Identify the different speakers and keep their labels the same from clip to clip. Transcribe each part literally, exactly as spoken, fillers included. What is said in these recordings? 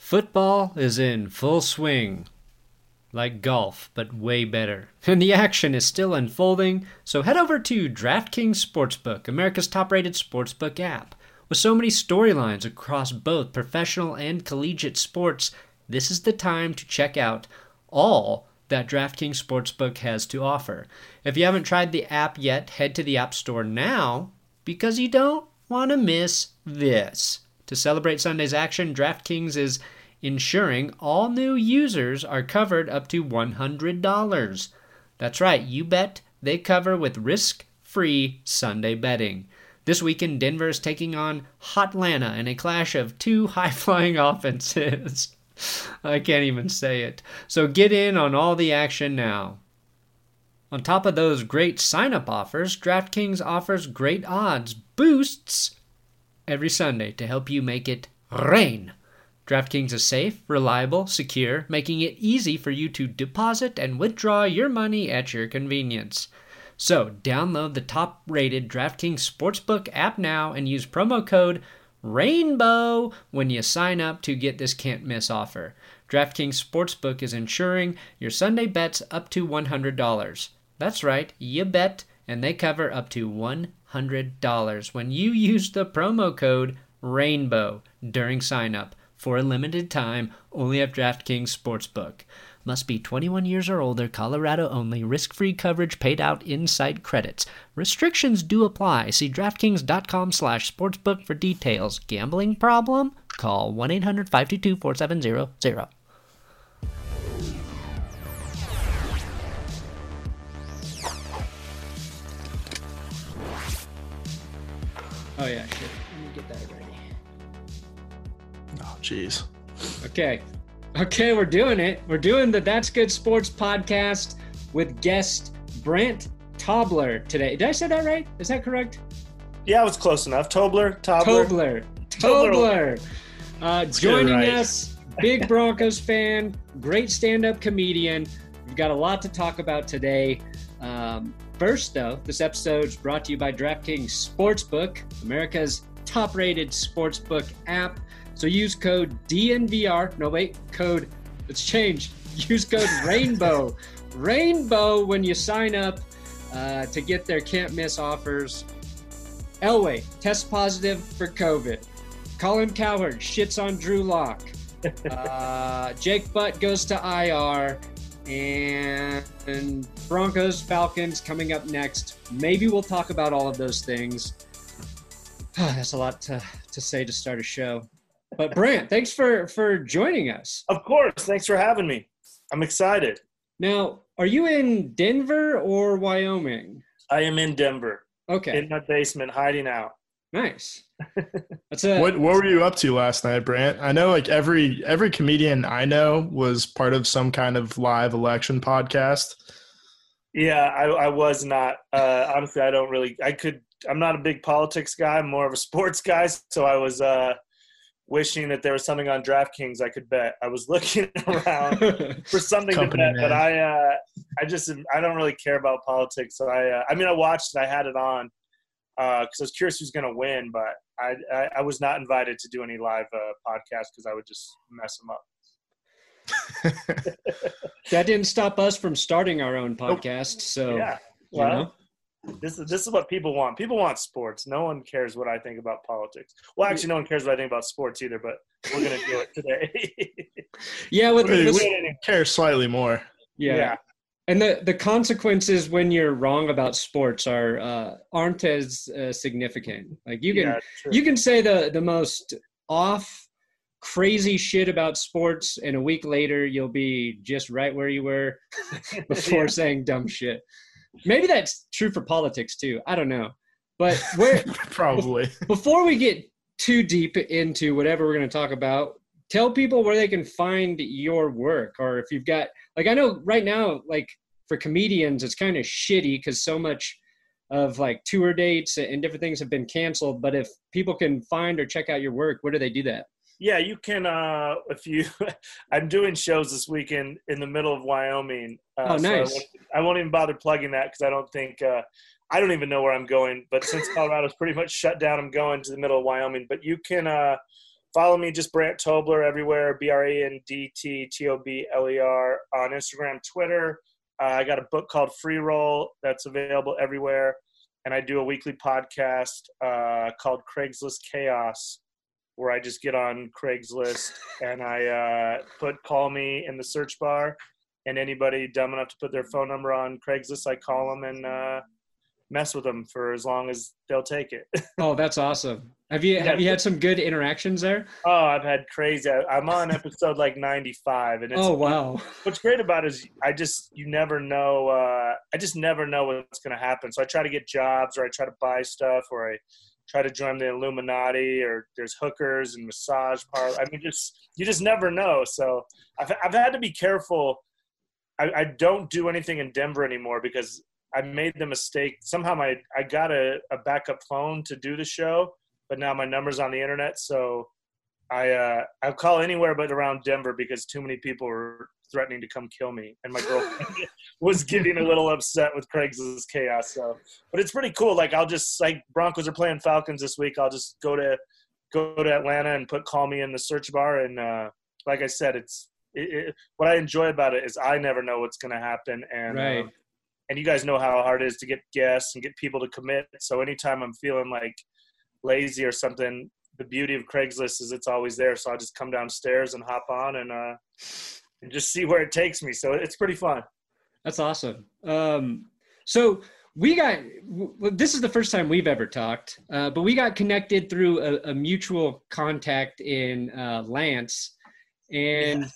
Speaker 1: Football is in full swing. Like golf, but way better. And the action is still unfolding, so head over to DraftKings Sportsbook, America's top-rated sportsbook app. With so many storylines across both professional and collegiate sports, this is the time to check out all that DraftKings Sportsbook has to offer. If you haven't tried the app yet, head to the App Store now, because you don't want to miss this. To celebrate Sunday's action, DraftKings is ensuring all new users are covered up to one hundred dollars. That's right, you bet they cover with risk-free Sunday betting. This weekend, Denver is taking on Hotlanta in a clash of two high-flying offenses. I can't even say it. So get in on all the action now. On top of those great sign-up offers, DraftKings offers great odds boosts every Sunday to help you make it rain. DraftKings is safe, reliable, secure, making it easy for you to deposit and withdraw your money at your convenience. So, download the top-rated DraftKings Sportsbook app now and use promo code RAINBOW when you sign up to get this can't-miss offer. DraftKings Sportsbook is insuring your Sunday bets up to one hundred dollars. That's right, you bet, and they cover up to one hundred dollars when you use the promo code RAINBOW during sign-up. For a limited time, only at DraftKings Sportsbook. Must be twenty-one years or older, Colorado only, risk-free coverage paid out in-site credits. Restrictions do apply. See DraftKings.com slash sportsbook for details. Gambling problem? Call one eight hundred five two two four seven zero zero. Oh yeah, shit. Let me get that ready.
Speaker 2: Oh, jeez.
Speaker 1: Okay. Okay, we're doing it. We're doing the That's Good Sports podcast with guest Brant Tobler today. Did I say that right? Is that correct?
Speaker 3: Yeah, it was close enough. Tobler, Tobler.
Speaker 1: Tobler. Tobler. Uh, joining
Speaker 3: right.
Speaker 1: us, big Broncos fan, great stand-up comedian. We've got a lot to talk about today. Um, first, though, this episode is brought to you by DraftKings Sportsbook, America's top-rated sportsbook app. So use code D N V R. No, wait, code, let's change. Use code RAINBOW. RAINBOW when you sign up uh, to get their can't miss offers. Elway, test positive for COVID. Colin Cowherd shits on Drew Lock. Uh, Jake Butt goes to I R. And, and Broncos, Falcons coming up next. Maybe we'll talk about all of those things. That's a lot to, to say to start a show. But Brant, thanks for, for joining us.
Speaker 3: Of course. Thanks for having me. I'm excited.
Speaker 1: Now, are you in Denver or Wyoming?
Speaker 3: I am in Denver.
Speaker 1: Okay.
Speaker 3: In my basement, hiding out.
Speaker 1: Nice. That's a,
Speaker 2: What what were you up to last night, Brant? I know like every every comedian I know was part of some kind of live election podcast.
Speaker 3: Yeah, I, I was not. Uh, honestly, I don't really – I could – I'm not a big politics guy. I'm more of a sports guy. So I was uh, – wishing that there was something on DraftKings I could bet. I was looking around for something
Speaker 2: Company
Speaker 3: to bet,
Speaker 2: man.
Speaker 3: but I, uh, I just, I don't really care about politics. So I, uh, I mean, I watched it. I had it on because uh, I was curious who's going to win, but I, I, I was not invited to do any live uh, podcasts because I would just mess them up.
Speaker 1: that didn't stop us from starting our own podcast. So,
Speaker 3: Yeah.
Speaker 1: you
Speaker 3: Well,
Speaker 1: know.
Speaker 3: This is this is what people want. People want sports. No one cares what I think about politics. Well, actually, no one cares what I think about sports either. But we're gonna do it today.
Speaker 1: Yeah, with,
Speaker 2: we,
Speaker 1: with,
Speaker 2: we care slightly more.
Speaker 1: yeah.
Speaker 3: Yeah.
Speaker 1: And the, the consequences when you're wrong about sports are uh, aren't as uh, significant. Like you can
Speaker 3: Yeah, true.
Speaker 1: you can say the the most off crazy shit about sports, and a week later you'll be just right where you were before
Speaker 3: Yeah.
Speaker 1: saying dumb shit. Maybe that's true for politics too. I don't know. But where
Speaker 2: Probably.
Speaker 1: before we get too deep into whatever we're going to talk about, tell people where they can find your work, or if you've got, like, I know right now, like for comedians, it's kind of shitty because so much of like tour dates and different things have been canceled. But if people can find or check out your work, where do they do that?
Speaker 3: Yeah, you can. Uh, if you, I'm doing shows this weekend in the middle of Wyoming. Uh,
Speaker 1: Oh,
Speaker 3: so I
Speaker 1: nice.
Speaker 3: won't, I won't even bother plugging that because I don't think uh, I don't even know where I'm going. But since Colorado's pretty much shut down, I'm going to the middle of Wyoming. But you can uh, follow me, just Brant Tobler everywhere, B R A N D T T O B L E R on Instagram, Twitter. Uh, I got a book called Free Roll that's available everywhere. And I do a weekly podcast uh, called Craigslist Chaos, where I just get on Craigslist and I uh, put call me in the search bar. And anybody dumb enough to put their phone number on Craigslist, I call them and uh, mess with them for as long as they'll take it.
Speaker 1: Oh, that's awesome. Have you, have you had some good interactions there?
Speaker 3: Oh, I've had crazy. I'm on episode like ninety-five. And it's,
Speaker 1: oh, wow.
Speaker 3: What's great about it is I just, you never know. Uh, I just never know what's going to happen. So I try to get jobs, or I try to buy stuff, or I try to join the Illuminati, or there's hookers and massage parlors. I mean, just, you just never know. So I've, I've had to be careful. I, I don't do anything in Denver anymore because I made the mistake. Somehow my, I got a, a backup phone to do the show, but now my number's on the internet. So I, uh, I'll call anywhere but around Denver because too many people were threatening to come kill me. And my girlfriend was getting a little upset with Craigslist Chaos. So, but it's pretty cool. Like I'll just, like Broncos are playing Falcons this week. I'll just go to, go to Atlanta and put call me in the search bar. And uh, like I said, it's, it, it, what I enjoy about it is I never know what's going to happen. And,
Speaker 1: right.
Speaker 3: um, and you guys know how hard it is to get guests and get people to commit. So anytime I'm feeling like lazy or something, the beauty of Craigslist is it's always there. So I just come downstairs and hop on and, uh, and just see where it takes me. So it's pretty fun.
Speaker 1: That's awesome. Um, so we got, well, this is the first time we've ever talked, uh, but we got connected through a, a mutual contact in uh, Lance. And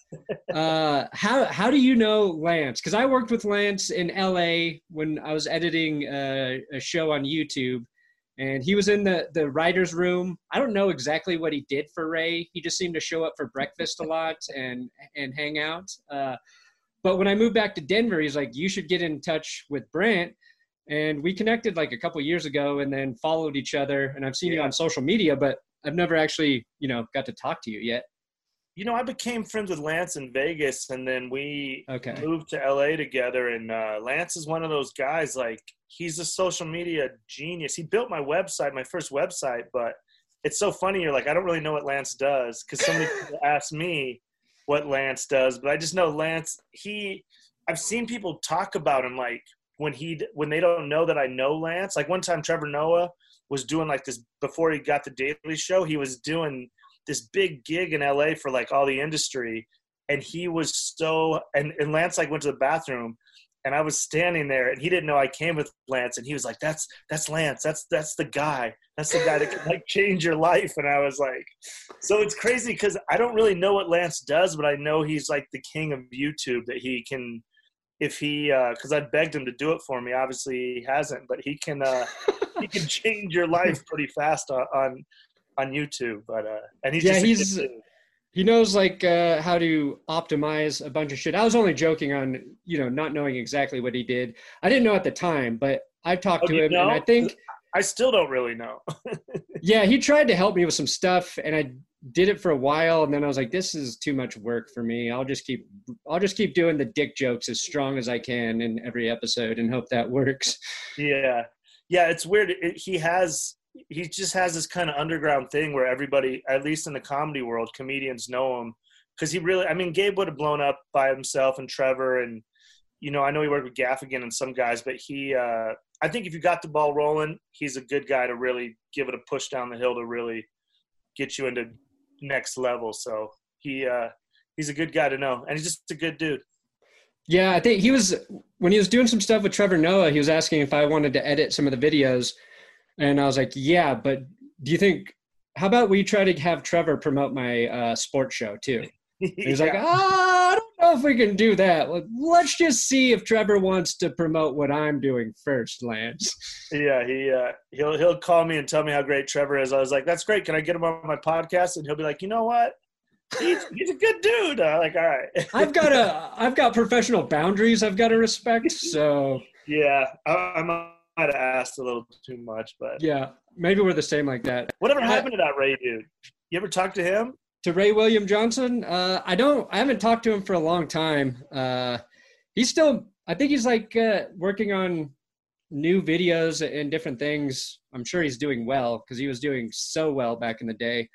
Speaker 1: uh, how how do you know Lance? Because I worked with Lance in L A when I was editing a, a show on YouTube, and he was in the, the writer's room. I don't know exactly what he did for Ray. He just seemed to show up for breakfast a lot and, and hang out. Uh, but when I moved back to Denver, he's like, you should get in touch with Brant. And we connected like a couple years ago and then followed each other. And I've seen yeah. you on social media, but I've never actually, you know, got to talk to you yet.
Speaker 3: You know, I became friends with Lance in Vegas, and then we
Speaker 1: okay.
Speaker 3: moved to L A together. And uh, Lance is one of those guys, like, he's a social media genius. He built my website, my first website, but it's so funny. You're like, I don't really know what Lance does because so many people ask me what Lance does, but I just know Lance, he – I've seen people talk about him, like, when he when they don't know that I know Lance. Like, one time Trevor Noah was doing, like, this – before he got the Daily Show, he was doing – this big gig in L A for like all the industry. And he was so, and, and Lance like went to the bathroom and I was standing there and he didn't know I came with Lance. And he was like, that's, that's Lance. That's, that's the guy. That's the guy that can like change your life. And I was like, so it's crazy because I don't really know what Lance does, but I know he's like the king of YouTube, that he can, if he, uh, cause I begged him to do it for me. Obviously he hasn't, but he can, uh, he can change your life pretty fast on, on on YouTube, but uh and he's
Speaker 1: yeah
Speaker 3: just
Speaker 1: he's he knows like uh how to optimize a bunch of shit. I was only joking on, you know, not knowing exactly what he did. I didn't know at the time, but I've talked
Speaker 3: oh,
Speaker 1: to him
Speaker 3: know?
Speaker 1: and I think
Speaker 3: I still don't really know.
Speaker 1: yeah, he tried to help me with some stuff and I did it for a while and then I was like, this is too much work for me. I'll just keep I'll just keep doing the dick jokes as strong as I can in every episode and hope that works.
Speaker 3: Yeah. Yeah, it's weird. It, he has he just has this kind of underground thing where everybody, at least in the comedy world, comedians know him because he really, I mean, Gabe would have blown up by himself and Trevor and, you know, I know he worked with Gaffigan and some guys, but he, uh, I think if you got the ball rolling, he's a good guy to really give it a push down the hill to really get you into next level. So he, uh, he's a good guy to know. And he's just a good dude.
Speaker 1: Yeah. I think he was, when he was doing some stuff with Trevor Noah, he was asking if I wanted to edit some of the videos. And I was like, yeah, but do you think, how about we try to have Trevor promote my uh, sports show too? And he's yeah. like, ah, I don't know if we can do that. Let's just see if Trevor wants to promote what I'm doing first, Lance.
Speaker 3: Yeah, he, uh, he'll, he'll call me and tell me how great Trevor is. I was like, that's great. Can I get him on my podcast? And he'll be like, you know what? He's, he's a good dude. I'm like, all right.
Speaker 1: I've got a, I've got professional boundaries I've got to respect. So
Speaker 3: yeah, I, I'm a, might have asked a little too much, but
Speaker 1: yeah, maybe we're the same like that.
Speaker 3: Whatever happened to that Ray dude? You ever talk to him?
Speaker 1: To Ray William Johnson? Uh, I don't. I haven't talked to him for a long time. Uh, he's still. I think he's like uh, working on new videos and different things. I'm sure he's doing well because he was doing so well back in the day.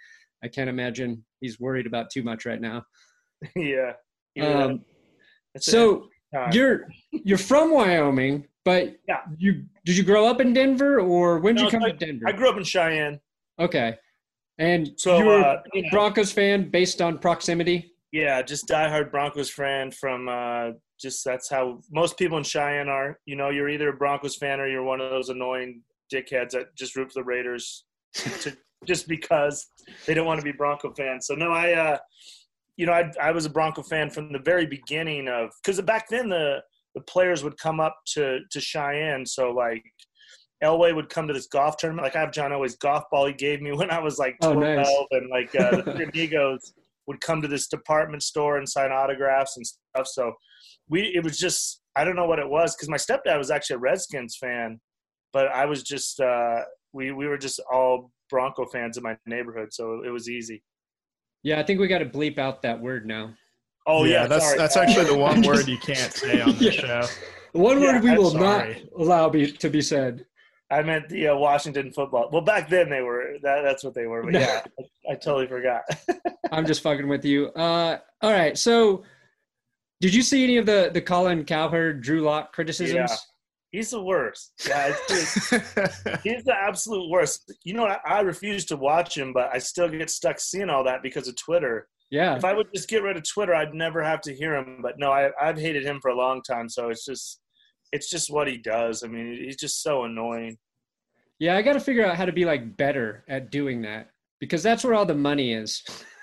Speaker 1: I can't imagine he's worried about too much right now.
Speaker 3: Yeah.
Speaker 1: Um, so you're you're from Wyoming, but
Speaker 3: yeah.
Speaker 1: you did you grow up in Denver, or when did
Speaker 3: no,
Speaker 1: you come
Speaker 3: I,
Speaker 1: to Denver?
Speaker 3: I grew up in Cheyenne.
Speaker 1: Okay, and
Speaker 3: so
Speaker 1: you were
Speaker 3: uh,
Speaker 1: a
Speaker 3: you know,
Speaker 1: Broncos fan based on proximity.
Speaker 3: Yeah, just diehard Broncos fan from uh, just that's how most people in Cheyenne are. You know, you're either a Broncos fan or you're one of those annoying dickheads that just root for the Raiders to, just because they don't want to be Bronco fans. So no, I, uh, you know, I I was a Bronco fan from the very beginning of because back then the the players would come up to to Cheyenne. So like Elway would come to this golf tournament. Like I have John Elway's golf ball he gave me when I was like twelve,
Speaker 1: oh, nice.
Speaker 3: and like uh, the three amigos would come to this department store and sign autographs and stuff. So we, it was just, I don't know what it was. Cause my stepdad was actually a Redskins fan, but I was just, uh, we, we were just all Bronco fans in my neighborhood. So it was easy.
Speaker 1: Yeah. I think we got to bleep out that word now.
Speaker 3: Oh yeah.
Speaker 2: yeah that's,
Speaker 3: sorry.
Speaker 2: that's actually the one word you can't say on the
Speaker 1: yeah.
Speaker 2: show.
Speaker 1: One
Speaker 3: yeah,
Speaker 1: word we
Speaker 3: I'm
Speaker 1: will
Speaker 2: sorry.
Speaker 1: not allow be, to be said.
Speaker 3: I meant the uh, Washington football. Well, back then they were, that, that's what they were. But yeah, I, I totally forgot.
Speaker 1: I'm just fucking with you. Uh, all right. So did you see any of the, the Colin Cowherd, Drew Lock criticisms?
Speaker 3: Yeah. He's the worst. Yeah, it's just, he's the absolute worst. You know, I, I refuse to watch him, but I still get stuck seeing all that because of Twitter.
Speaker 1: Yeah.
Speaker 3: If I would just get rid of Twitter, I'd never have to hear him. But no, I, I've hated him for a long time. So it's just, it's just what he does. I mean, he's just so annoying.
Speaker 1: Yeah, I got to figure out how to be like better at doing that because that's where all the money is.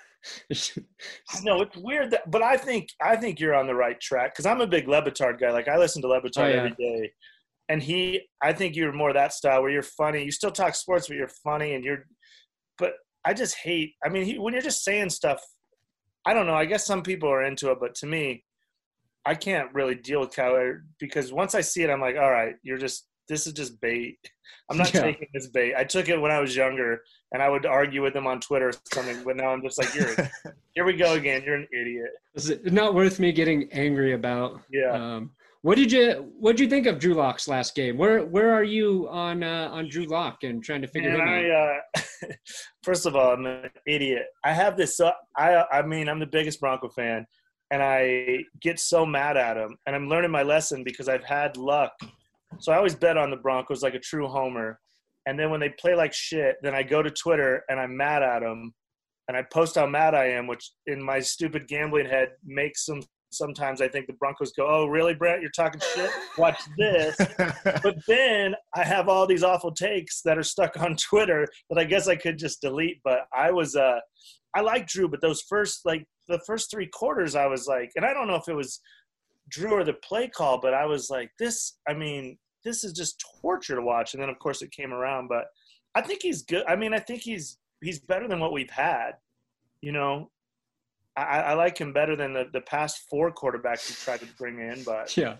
Speaker 3: No, it's weird that, but I think I think you're on the right track because I'm a big Le Batard guy. Like I listen to Le Batard oh, yeah. every day, and he, I think you're more that style where you're funny. You still talk sports, but you're funny, and you're. But I just hate. I mean, he, when you're just saying stuff, I don't know. I guess some people are into it, but to me, I can't really deal with Cowherd because once I see it, I'm like, all right, you're just. This is just bait. I'm not yeah. taking this bait. I took it when I was younger, and I would argue with him on Twitter or something. But now I'm just like, "You're, here we go again. You're an idiot."
Speaker 1: Is it not worth me getting angry about?
Speaker 3: Yeah.
Speaker 1: Um, what did you What did you think of Drew Lock's last game? Where Where are you on uh, on Drew Lock and trying to figure
Speaker 3: Man,
Speaker 1: him
Speaker 3: I,
Speaker 1: out?
Speaker 3: Uh, first of all, I'm an idiot. I have this. Uh, I I mean, I'm the biggest Bronco fan, and I get so mad at him. And I'm learning my lesson because I've had luck. So I always bet on the Broncos like a true homer. And then when they play like shit, then I go to Twitter and I'm mad at them. And I post how mad I am, which in my stupid gambling head makes them sometimes I think the Broncos go, oh, really, Brent? You're talking shit? Watch this. But then I have all these awful takes that are stuck on Twitter that I guess I could just delete. But I was uh, – I like Drew, but those first – like the first three quarters I was like – and I don't know if it was Drew or the play call, but I was like, this – I mean – this is just torture to watch. And then, of course, it came around. But I think he's good. I mean, I think he's he's better than what we've had. You know, I, I like him better than the, the past four quarterbacks he tried to bring in. But
Speaker 1: yeah,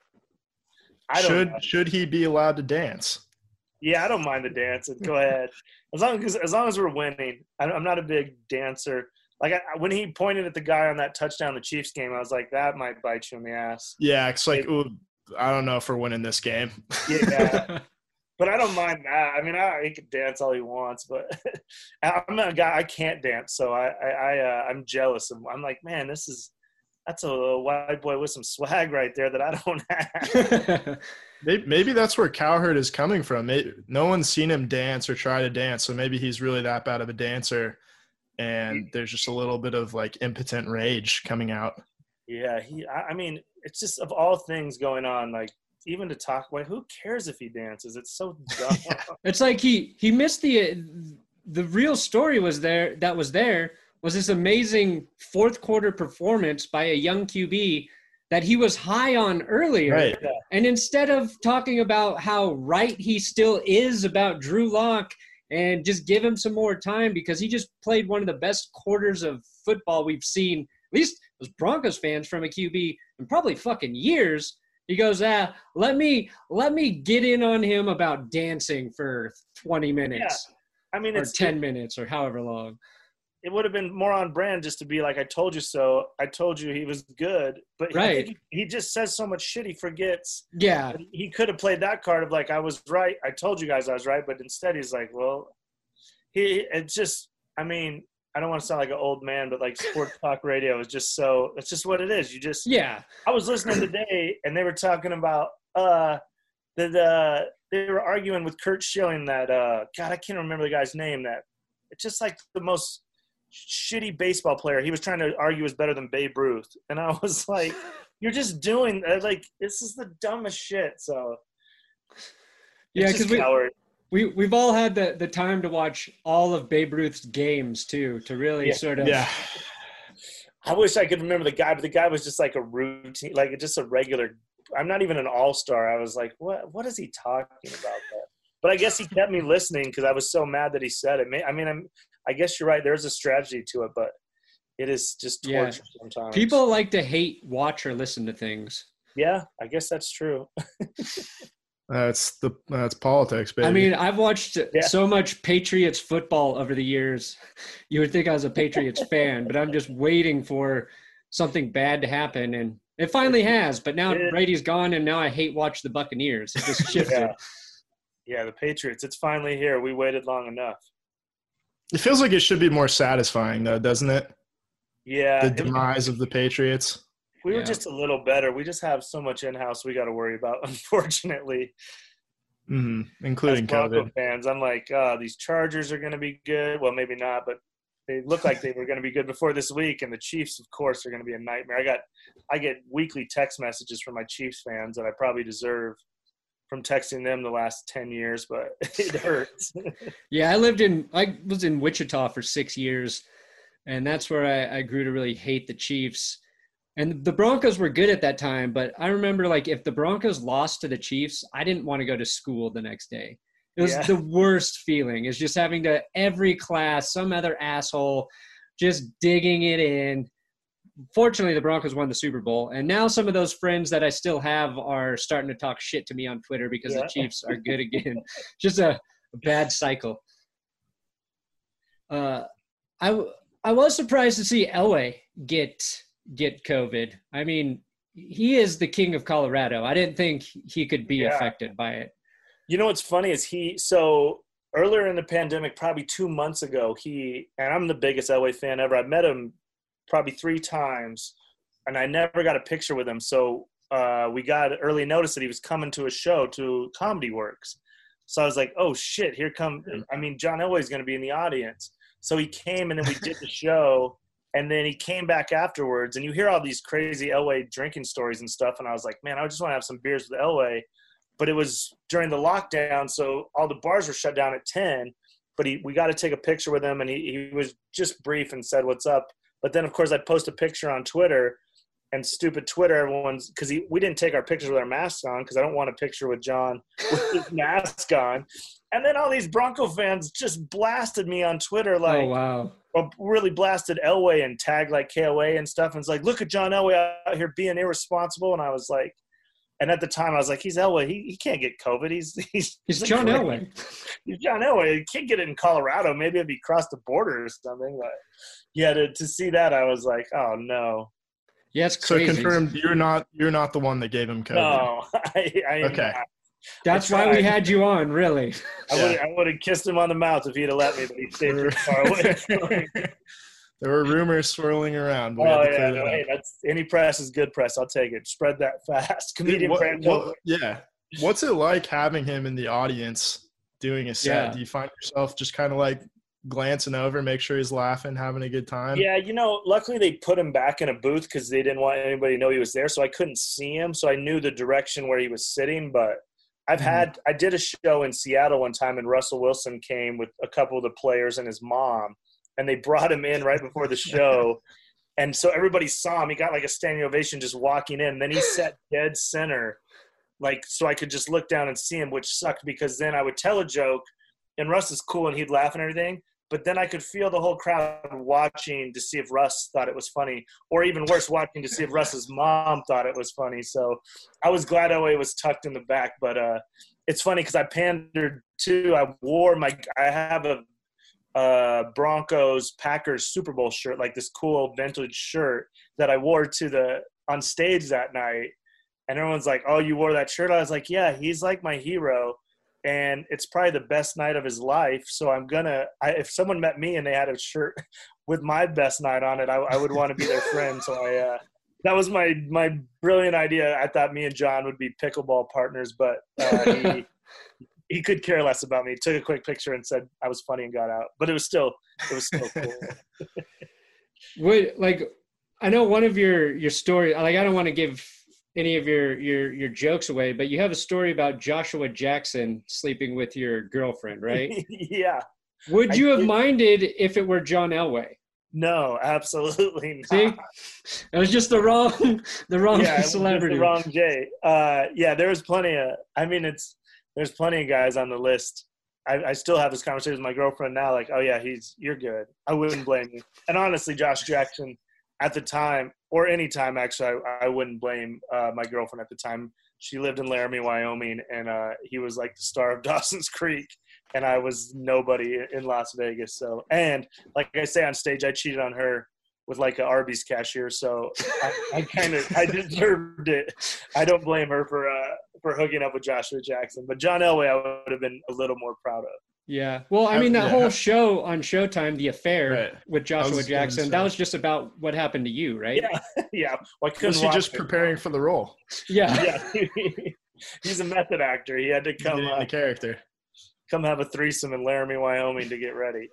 Speaker 3: I don't
Speaker 2: should
Speaker 3: know.
Speaker 2: should he be allowed to dance?
Speaker 3: Yeah, I don't mind the dance. Go ahead, as long as as long as we're winning. I'm not a big dancer. Like I, when he pointed at the guy on that touchdown, the Chiefs game, I was like, that might bite you in the ass.
Speaker 2: Yeah, it's like, ooh, I don't know if we're winning this game.
Speaker 3: Yeah, but I don't mind that. I mean, I, he can dance all he wants, but I'm a guy I can't dance, so I, I, I uh, I'm jealous. Of, I'm like, man, this is that's a white boy with some swag right there that I don't have.
Speaker 2: maybe, maybe that's where Cowherd is coming from. Maybe, no one's seen him dance or try to dance, so maybe he's really that bad of a dancer, and there's just a little bit of like impotent rage coming out.
Speaker 3: Yeah, he. I, I mean. It's just of all things going on, like even to talk about, who cares if he dances? It's so dumb.
Speaker 1: It's like he he missed the the real story was there that was there was this amazing fourth quarter performance by a young Q B that he was high on earlier.
Speaker 2: Right.
Speaker 3: Yeah.
Speaker 1: And instead of talking about how right he still is about Drew Lock and just give him some more time because he just played one of the best quarters of football we've seen, at least as Broncos fans, from a Q B in probably fucking years. He goes, ah, let me let me get in on him about dancing for twenty minutes.
Speaker 3: Yeah. I mean,
Speaker 1: or
Speaker 3: it's
Speaker 1: ten
Speaker 3: it,
Speaker 1: minutes or however long.
Speaker 3: It would have been more on brand just to be like, I told you so. I told you he was good. But
Speaker 1: right.
Speaker 3: I think he, he just says so much shit he forgets.
Speaker 1: Yeah.
Speaker 3: He could have played that card of like, I was right. I told you guys I was right. But instead he's like, well, he it's just, I mean, I don't want to sound like an old man, but like sports talk radio is just so, it's just what it is. You just,
Speaker 1: Yeah.
Speaker 3: I was listening today and they were talking about, uh, that, uh, they were arguing with Kurt Schilling that, uh, God, I can't remember the guy's name, that it's just like the most shitty baseball player. He was trying to argue is better than Babe Ruth. And I was like, you're just doing like, this is the dumbest shit. So
Speaker 1: yeah, because we, we, we've all had the, the time to watch all of Babe Ruth's games too, to really
Speaker 3: yeah.
Speaker 1: sort of.
Speaker 2: Yeah.
Speaker 3: I wish I could remember the guy, but the guy was just like a routine, like just a regular. I'm not even an all-star. I was like, what, what is he talking about there? But I guess he kept me listening because I was so mad that he said it. I mean, I'm, I guess you're right. There's a strategy to it, but it is just torture yeah. sometimes.
Speaker 1: People like to hate, watch, or listen to things.
Speaker 3: Yeah, I guess that's true.
Speaker 2: That's the that's politics, baby.
Speaker 1: I mean, I've watched yeah. so much Patriots football over the years. You would think I was a Patriots fan, but I'm just waiting for something bad to happen, and it finally has. But now it, Brady's gone, and now I hate watch the Buccaneers. It just shifted.
Speaker 3: Yeah. yeah, the Patriots. It's finally here. We waited long enough.
Speaker 2: It feels like it should be more satisfying, though, doesn't it?
Speaker 3: Yeah.
Speaker 2: The demise of the Patriots.
Speaker 3: We were
Speaker 1: yeah.
Speaker 3: just a little better. We just have so much in-house we got to worry about, unfortunately.
Speaker 2: Mm-hmm. Including
Speaker 3: As Bronco
Speaker 2: COVID.
Speaker 3: fans, I'm like, oh, these Chargers are going to be good. Well, maybe not, but they look like they were going to be good before this week. And the Chiefs, of course, are going to be a nightmare. I got, I get weekly text messages from my Chiefs fans that I probably deserve from texting them the last ten years, but it hurts.
Speaker 1: Yeah, I lived in, I was in Wichita for six years, and that's where I, I grew to really hate the Chiefs. And the Broncos were good at that time, but I remember, like, if the Broncos lost to the Chiefs, I didn't want to go to school the next day. It was
Speaker 3: Yeah.
Speaker 1: the worst feeling. It's just having to, every class, some other asshole just digging it in. Fortunately, the Broncos won the Super Bowl, and now some of those friends that I still have are starting to talk shit to me on Twitter because
Speaker 3: Yeah.
Speaker 1: the Chiefs are good again. Just a, a bad cycle. Uh, I, I was surprised to see Elway get – get COVID. I mean, he is the king of Colorado. I didn't think he could be
Speaker 3: Yeah.
Speaker 1: affected by it.
Speaker 3: You know what's funny is he, so earlier in the pandemic, probably two months ago, he, and I'm the biggest Elway fan ever. I've met him probably three times, and I never got a picture with him. So uh, we got early notice that he was coming to a show, to Comedy Works. So I was like, oh, shit, here come, I mean, John Elway's going to be in the audience. So he came, and then we did the show. And then he came back afterwards, and you hear all these crazy Elway drinking stories and stuff. And I was like, man, I just want to have some beers with Elway. But it was during the lockdown, so all the bars were shut down at ten. But he, we got to take a picture with him, and he, he was just brief and said, what's up? But then, of course, I post a picture on Twitter, and stupid Twitter, everyone's – because we didn't take our pictures with our masks on because I don't want a picture with John with his mask on. And then all these Bronco fans just blasted me on Twitter like –
Speaker 1: oh, wow.
Speaker 3: Or really blasted Elway and tagged like K O A and stuff. And it's like, look at John Elway out here being irresponsible. And I was like, and at the time I was like, he's Elway. He, he can't get COVID. He's he's,
Speaker 1: He's John
Speaker 3: great.
Speaker 1: Elway.
Speaker 3: He's John Elway. He can't get it in Colorado. Maybe it'd be across the border or something. But yeah, to, to see that, I was like, oh no.
Speaker 1: Yeah, it's
Speaker 2: So
Speaker 1: crazy.
Speaker 2: confirmed, you're not you're not the one that gave him COVID.
Speaker 3: No, I, I am
Speaker 2: Okay.
Speaker 3: not.
Speaker 1: That's
Speaker 3: I
Speaker 1: why we
Speaker 3: tried.
Speaker 1: had you on, really.
Speaker 3: I
Speaker 2: Yeah.
Speaker 3: would I would have kissed him on the mouth if he'd have let me, but he stayed too far away.
Speaker 2: There were rumors swirling around. But we
Speaker 3: Oh
Speaker 2: had to
Speaker 3: yeah,
Speaker 2: clear
Speaker 3: no,
Speaker 2: that
Speaker 3: hey,
Speaker 2: up.
Speaker 3: that's any press is good press. I'll take it. Spread that fast. Comedian
Speaker 2: What-
Speaker 3: brand.
Speaker 2: what- yeah. What's it like having him in the audience doing a set?
Speaker 1: Yeah.
Speaker 2: Do you find yourself just kind of like glancing over, make sure he's laughing, having a good time?
Speaker 3: Yeah, you know, luckily they put him back in a booth because they didn't want anybody to know he was there, so I couldn't see him. So I knew the direction where he was sitting. But I've
Speaker 2: Mhm.
Speaker 3: had I did a show in Seattle one time, and Russell Wilson came with a couple of the players and his mom, and they brought him in right before the show. And so everybody saw him. He got like a standing ovation just walking in. Then he sat dead center, like so I could just look down and see him, which sucked because then I would tell a joke, and Russ is cool and he'd laugh and everything. But then I could feel the whole crowd watching to see if Russ thought it was funny, or even worse, watching to see if Russ's mom thought it was funny. So I was glad Elway was tucked in the back. But uh, it's funny because I pandered too. I wore my – I have a uh, Broncos Packers Super Bowl shirt, like this cool vintage shirt that I wore to the on stage that night. And everyone's like, oh, you wore that shirt? I was like, yeah, he's like my hero. And it's probably the best night of his life. So I'm going to – if someone met me and they had a shirt with my best night on it, I, I would want to be their friend. So I, uh, that was my, my brilliant idea. I thought me and John would be pickleball partners, but uh, he, he could care less about me. He took a quick picture and said I was funny and got out, but it was still, it was still cool.
Speaker 1: Would like, I know one of your, your story, like, I don't want to give any of your, your, your jokes away, but you have a story about Joshua Jackson sleeping with your girlfriend, right?
Speaker 3: Yeah.
Speaker 1: Would you
Speaker 3: I
Speaker 1: have
Speaker 3: did.
Speaker 1: minded if it were John Elway?
Speaker 3: No, absolutely not.
Speaker 1: See, it was just the wrong, the wrong
Speaker 3: Yeah, it was just
Speaker 1: celebrity.
Speaker 3: the wrong Jay. Uh, yeah, there was plenty of, I mean, it's, there's plenty of guys on the list. I, I still have this conversation with my girlfriend now, like, oh yeah, he's, you're good. I wouldn't blame you. And honestly, Josh Jackson at the time, or any time actually, I, I wouldn't blame uh, my girlfriend at the time. She lived in Laramie, Wyoming, and uh, he was like the star of Dawson's Creek, and I was nobody in Las Vegas. So, and like I say on stage, I cheated on her with like an Arby's cashier. So I, I kind of, I deserved it. I don't blame her for, uh, for hooking up with Joshua Jackson, but John Elway, I would have been a little more proud of.
Speaker 1: Yeah. Well, I mean, that
Speaker 2: Yeah.
Speaker 1: whole show on Showtime, The Affair
Speaker 2: Right.
Speaker 1: with Joshua
Speaker 2: was gonna
Speaker 1: Jackson,
Speaker 2: say.
Speaker 1: that was just about what happened to you, right?
Speaker 3: Yeah. Yeah. Well, I couldn't
Speaker 2: Was he
Speaker 3: watch
Speaker 2: just
Speaker 3: it.
Speaker 2: preparing for the role?
Speaker 1: Yeah.
Speaker 3: Yeah. He's a method actor. He had to come,
Speaker 2: Getting
Speaker 3: uh,
Speaker 2: the character.
Speaker 3: come have a threesome in Laramie, Wyoming to get ready.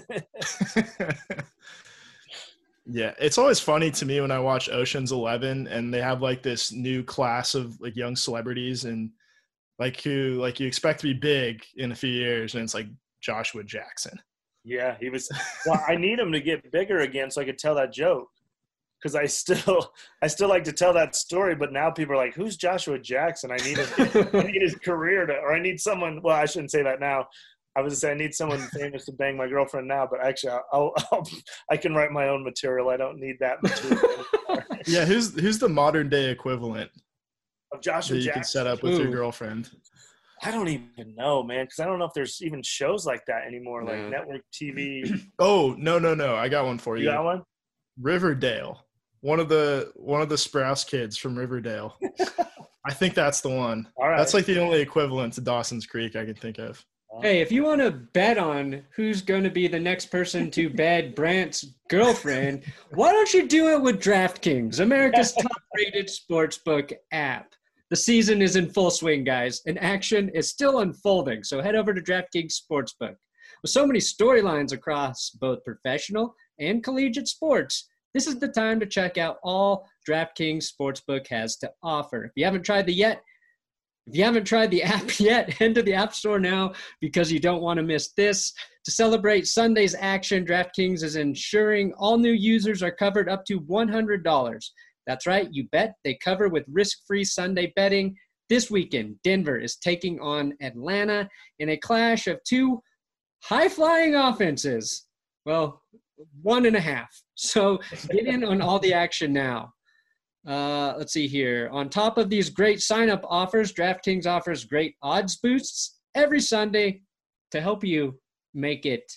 Speaker 2: Yeah, it's always funny to me when I watch Ocean's Eleven and they have like this new class of like young celebrities and like who like you expect to be big in a few years, and it's like Joshua Jackson.
Speaker 3: Yeah, he was. Well, I need him to get bigger again so I could tell that joke, because I still, I still like to tell that story. But now people are like, "Who's Joshua Jackson?" I need him. I need his career to, or I need someone. Well, I shouldn't say that now. I was saying I need someone famous to bang my girlfriend now. But actually, I'll, I'll, I'll I can write my own material. I don't need that material anymore.
Speaker 2: Yeah, who's who's the modern day equivalent
Speaker 3: Of Joshua
Speaker 2: that you
Speaker 3: Jackson.
Speaker 2: can set up with your
Speaker 1: Ooh.
Speaker 2: girlfriend?
Speaker 3: I don't even know, man, because I don't know if there's even shows like that anymore, like
Speaker 1: No.
Speaker 3: network T V.
Speaker 2: Oh no no no! I got one for
Speaker 3: You
Speaker 2: you.
Speaker 3: got one?
Speaker 2: Riverdale. One of the one of the Sprouse kids from Riverdale. I think that's the one.
Speaker 3: All right.
Speaker 2: That's like the only equivalent to Dawson's Creek I can think of.
Speaker 1: Hey, if you want to bet on who's going to be the next person to bed Brant's girlfriend, why don't you do it with DraftKings, America's top-rated sportsbook app? The season is in full swing, guys, and action is still unfolding. So head over to DraftKings Sportsbook. With so many storylines across both professional and collegiate sports, this is the time to check out all DraftKings Sportsbook has to offer. If you haven't tried the yet, If you haven't tried the app yet, head to the App Store now because you don't want to miss this. To celebrate Sunday's action, DraftKings is ensuring all new users are covered up to one hundred dollars. That's right, you bet they cover with risk-free Sunday betting. This weekend, Denver is taking on Atlanta in a clash of two high-flying offenses. Well, one and a half. So get in on all the action now. Uh, let's see here. On top of these great sign-up offers, DraftKings offers great odds boosts every Sunday to help you make it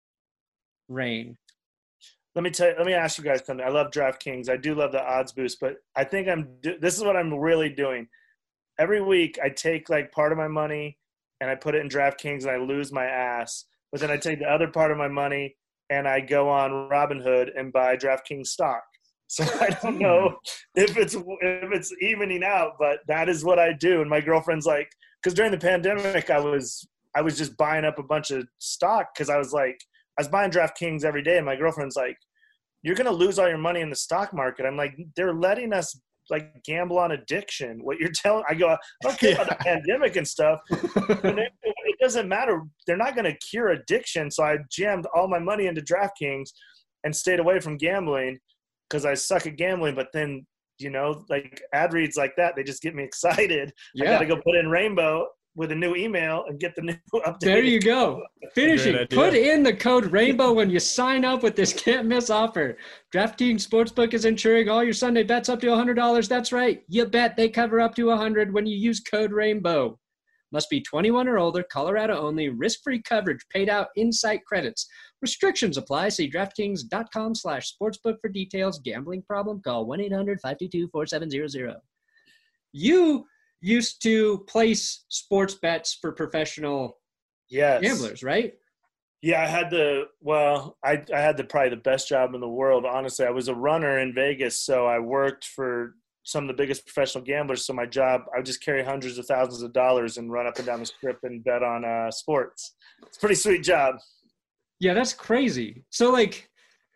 Speaker 1: rain.
Speaker 3: Let me tell you, let me ask you guys something. I love DraftKings. I do love the odds boost, but I think I'm do- this is what I'm really doing. Every week I take like part of my money and I put it in DraftKings and I lose my ass. But then I take the other part of my money and I go on Robinhood and buy DraftKings stock. So I don't know if it's if it's evening out, but that is what I do. And my girlfriend's like, because during the pandemic, I was I was just buying up a bunch of stock because I was like, I was buying DraftKings every day, and my girlfriend's like, "You're gonna lose all your money in the stock market." I'm like, "They're letting us like gamble on addiction." What you're telling, I go, I don't care about the pandemic and stuff. But it, it doesn't matter. They're not gonna cure addiction. So I jammed all my money into DraftKings and stayed away from gambling because I suck at gambling. But then, you know, like ad reads like that, they just get me excited.
Speaker 1: Yeah.
Speaker 3: I got to go put in Rainbow with a new email and get the new update.
Speaker 1: There you go. Finishing.
Speaker 2: Great idea.
Speaker 1: Put in the code RAINBOW when you sign up with this can't miss offer. DraftKings Sportsbook is insuring all your Sunday bets up to one hundred dollars. That's right. You bet they cover up to one hundred dollars when you use code RAINBOW. Must be twenty-one or older, Colorado only, risk-free coverage, paid out in-site credits. Restrictions apply. See DraftKings.com slash sportsbook for details. Gambling problem? Call one eight hundred five two two four seven zero zero. You used to place sports bets for professional
Speaker 3: Yes.
Speaker 1: gamblers, right?
Speaker 3: Yeah, I had the well, I I had the probably the best job in the world. Honestly, I was a runner in Vegas, so I worked for some of the biggest professional gamblers. So my job, I would just carry hundreds of thousands of dollars and run up and down the strip and bet on uh, sports. It's a pretty sweet job.
Speaker 1: Yeah, that's crazy. So like,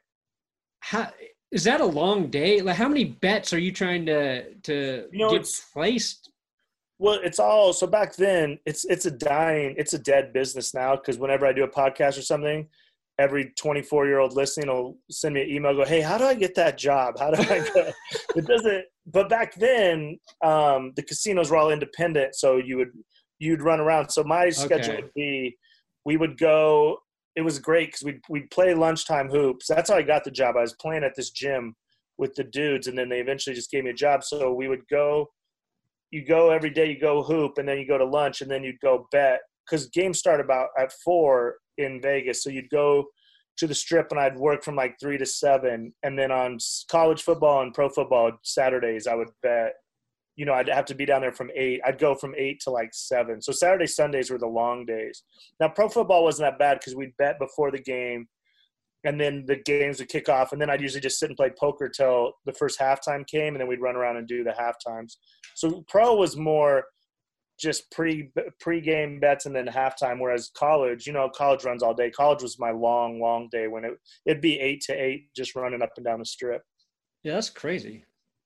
Speaker 1: how is that a long day? Like, how many bets are you trying to to
Speaker 3: You know,
Speaker 1: get
Speaker 3: it's
Speaker 1: placed?
Speaker 3: Well, it's all so back then. It's it's a dying, it's a dead business now. Because whenever I do a podcast or something, every twenty-four year old listening will send me an email. Go, hey, how do I get that job? How do I get? It doesn't. But back then, um, the casinos were all independent, so you would you'd run around. So my schedule
Speaker 1: Okay.
Speaker 3: would be, we would go. It was great because we'd we'd play lunchtime hoops. That's how I got the job. I was playing at this gym with the dudes, and then they eventually just gave me a job. So we would go. You go every day, you go hoop, and then you go to lunch, and then you'd go bet. Because games start about at four in Vegas. So you'd go to the strip, and I'd work from like three to seven. And then on college football and pro football Saturdays, I would bet. You know, I'd have to be down there from eight. I'd go from eight to like seven. So Saturday, Sundays were the long days. Now, pro football wasn't that bad because we'd bet before the game, and then the games would kick off, and then I'd usually just sit and play poker till the first halftime came, and then we'd run around and do the halftimes. So pro was more just pre pre-game bets and then halftime, whereas college, you know, college runs all day. College was my long, long day when it it'd be eight to eight, just running up and down the strip.
Speaker 1: Yeah, that's crazy.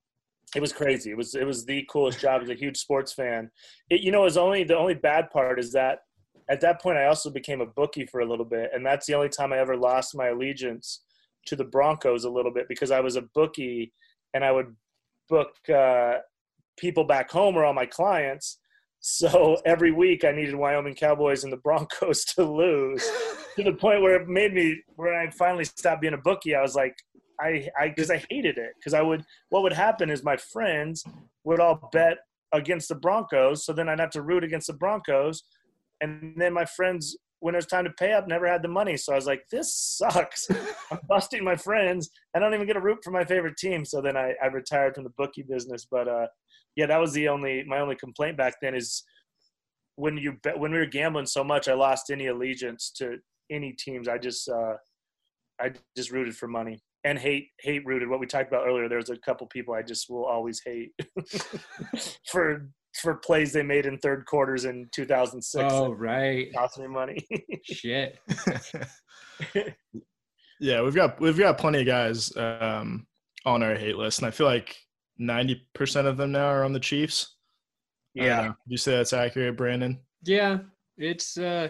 Speaker 3: It was crazy. It was it was the coolest job. I was a huge sports fan. It, you know, it was only the only bad part is that at that point I also became a bookie for a little bit, and that's the only time I ever lost my allegiance to the Broncos a little bit, because I was a bookie and I would book uh, people back home or all my clients. So every week I needed Wyoming Cowboys and the Broncos to lose, to the point where it made me, where I finally stopped being a bookie. I was like, I, I, cause I hated it. Cause I would, what would happen is my friends would all bet against the Broncos. So then I'd have to root against the Broncos. And then my friends, when it was time to pay up, never had the money. So I was like, this sucks. I'm busting my friends. I don't even get a root for my favorite team. So then I, I retired from the bookie business. But uh, yeah, that was the only, my only complaint back then is when you bet, when we were gambling so much, I lost any allegiance to any teams. I just, uh, I just rooted for money. And hate, hate rooted. What we talked about earlier, there's a couple people I just will always hate for for plays they made in third quarters in two thousand six.
Speaker 1: Oh, right.
Speaker 3: Cost me money.
Speaker 1: Shit.
Speaker 2: Yeah, we've got we've got plenty of guys um, on our hate list, and I feel like ninety percent of them now are on the Chiefs.
Speaker 3: Yeah.
Speaker 2: Uh, you say that's accurate, Brandon?
Speaker 1: Yeah, it's uh,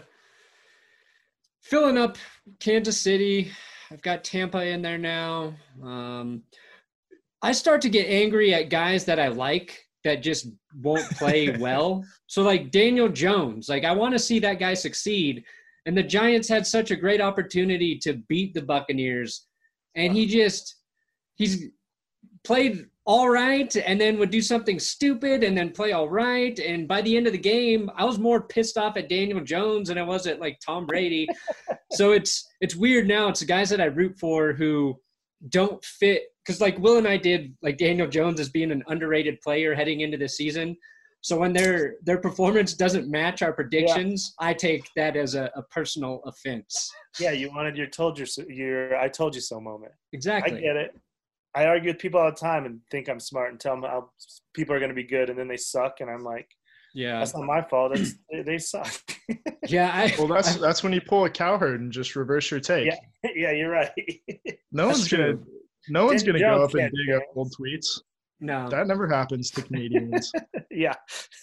Speaker 1: filling up Kansas City. I've got Tampa in there now. Um, I start to get angry at guys that I like that just won't play well. So like Daniel Jones, like I want to see that guy succeed. And the Giants had such a great opportunity to beat the Buccaneers. And he just, he's played all right and then would do something stupid and then play all right. And by the end of the game, I was more pissed off at Daniel Jones than I was at like Tom Brady. So it's, it's weird now. It's the guys that I root for who don't fit. Cause like Will and I did like Daniel Jones as being an underrated player heading into the season. So when their, their performance doesn't match our predictions, yeah. I take that as a, a personal offense.
Speaker 3: Yeah. You wanted your told you so, your, I told you so moment.
Speaker 1: Exactly.
Speaker 3: I get it. I argue with people all the time and think I'm smart and tell them how people are going to be good, and then they suck, and I'm like,
Speaker 1: yeah,
Speaker 3: that's not my fault. That's, they, they suck.
Speaker 1: Yeah. I,
Speaker 2: well, that's
Speaker 1: I,
Speaker 2: that's when you pull a cowherd and just reverse your take.
Speaker 3: Yeah, yeah, you're right.
Speaker 2: No
Speaker 1: that's
Speaker 2: one's
Speaker 1: true.
Speaker 2: gonna no one's
Speaker 3: Daniel
Speaker 2: gonna go
Speaker 3: Jones
Speaker 2: up and
Speaker 3: can't
Speaker 2: dig up
Speaker 3: dance.
Speaker 2: old tweets.
Speaker 1: No,
Speaker 2: That never happens to comedians.
Speaker 3: Yeah.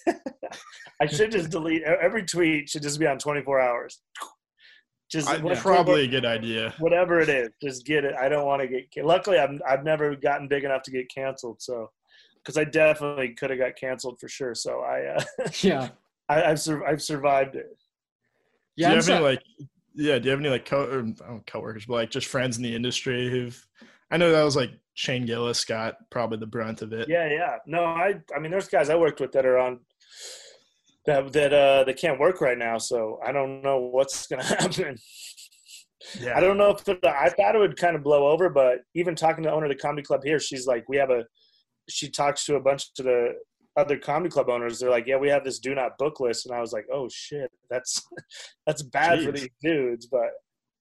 Speaker 3: I should just delete every tweet. Should just be on twenty-four hours. Just
Speaker 2: I,
Speaker 3: what-
Speaker 2: probably a good idea.
Speaker 3: whatever it is, just get it. I don't want to get. Luckily, I've I've never gotten big enough to get canceled. So, because I definitely could have got canceled for sure. So I, uh,
Speaker 1: yeah,
Speaker 3: I, I've sur- I've survived it.
Speaker 1: yeah.
Speaker 2: do you
Speaker 1: I'm
Speaker 2: have any
Speaker 1: so-
Speaker 2: like yeah? Do you have any like co or, I don't coworkers, but like just friends in the industry who've? I know that was like Shane Gillis got probably the brunt of it.
Speaker 3: Yeah, yeah. No, I I mean, there's guys I worked with that are on that that uh they can't work right now. So I don't know what's gonna happen.
Speaker 2: Yeah.
Speaker 3: I don't know if it, I thought it would kind of blow over, but even talking to the owner of the comedy club here, she's like, we have a, she talks to a bunch of the other comedy club owners. They're like, yeah, we have this do not book list. And I was like, oh shit, that's, that's bad
Speaker 2: Jeez.
Speaker 3: for these dudes. But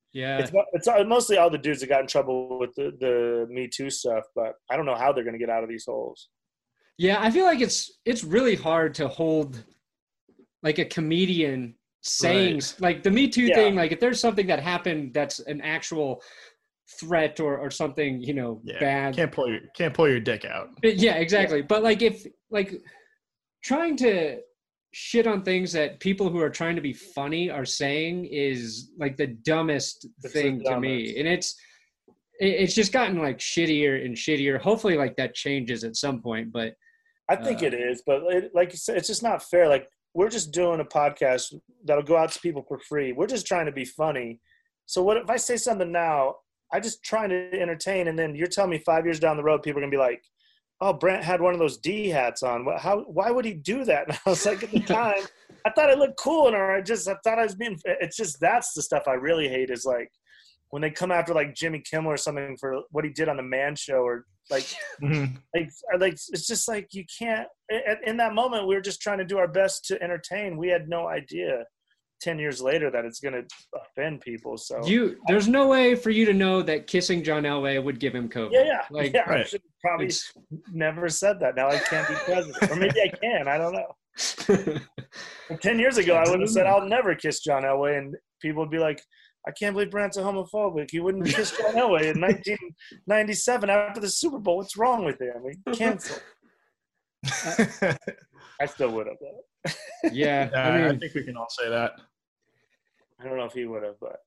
Speaker 1: Yeah.
Speaker 3: It's it's mostly all the dudes that got in trouble with the, the Me Too stuff, but I don't know how they're going to get out of these holes.
Speaker 1: Yeah, I feel like it's it's really hard to hold like a comedian saying
Speaker 2: Right.
Speaker 1: like the Me Too
Speaker 3: Yeah.
Speaker 1: thing. Like if there's something that happened that's an actual threat or or something, you know,
Speaker 2: Yeah.
Speaker 1: bad.
Speaker 2: Can't pull your can't pull your dick out.
Speaker 1: Yeah, exactly. But like if like trying to shit on things that people who are trying to be funny are saying is like the dumbest
Speaker 3: It's the
Speaker 1: thing to me.
Speaker 3: dumbest.
Speaker 1: And it's it- it's just gotten like shittier and shittier. Hopefully like that changes at some point, but
Speaker 3: I think
Speaker 1: Uh,
Speaker 3: it is, but it, like you said, it's just not fair. Like we're just doing a podcast that'll go out to people for free. We're just trying to be funny. So what if I say something now? I just trying to entertain, and then you're telling me five years down the road, people are gonna be like, "Oh, Brent had one of those D hats on. What- How? Why would he do that?" And I was like, at the time, I thought it looked cool, and I just I thought I was being. It's just that's the stuff I really hate is like when they come after like Jimmy Kimmel or something for what he did on the Man Show or like.
Speaker 2: Mhm.
Speaker 3: like like it's just like you can't in, in that moment we were just trying to do our best to entertain. We had no idea ten years later that it's going to offend people. So
Speaker 1: you there's no way for you to know that kissing John Elway would give him COVID.
Speaker 3: yeah yeah
Speaker 1: Like
Speaker 3: yeah I
Speaker 2: right.
Speaker 3: should probably
Speaker 1: it's
Speaker 3: never said that. Now I can't be president, or maybe I can, I don't know. ten years ago I would have said I'll never kiss John Elway, and people would be like, I can't believe Brant's a homophobic. He wouldn't kiss John Elway in nineteen ninety-seven after the Super Bowl. What's wrong with him? He canceled. I still would have though.
Speaker 1: yeah,
Speaker 2: Yeah,
Speaker 1: I
Speaker 2: I,
Speaker 1: mean
Speaker 2: think we can all say that.
Speaker 3: I don't know if he would have, but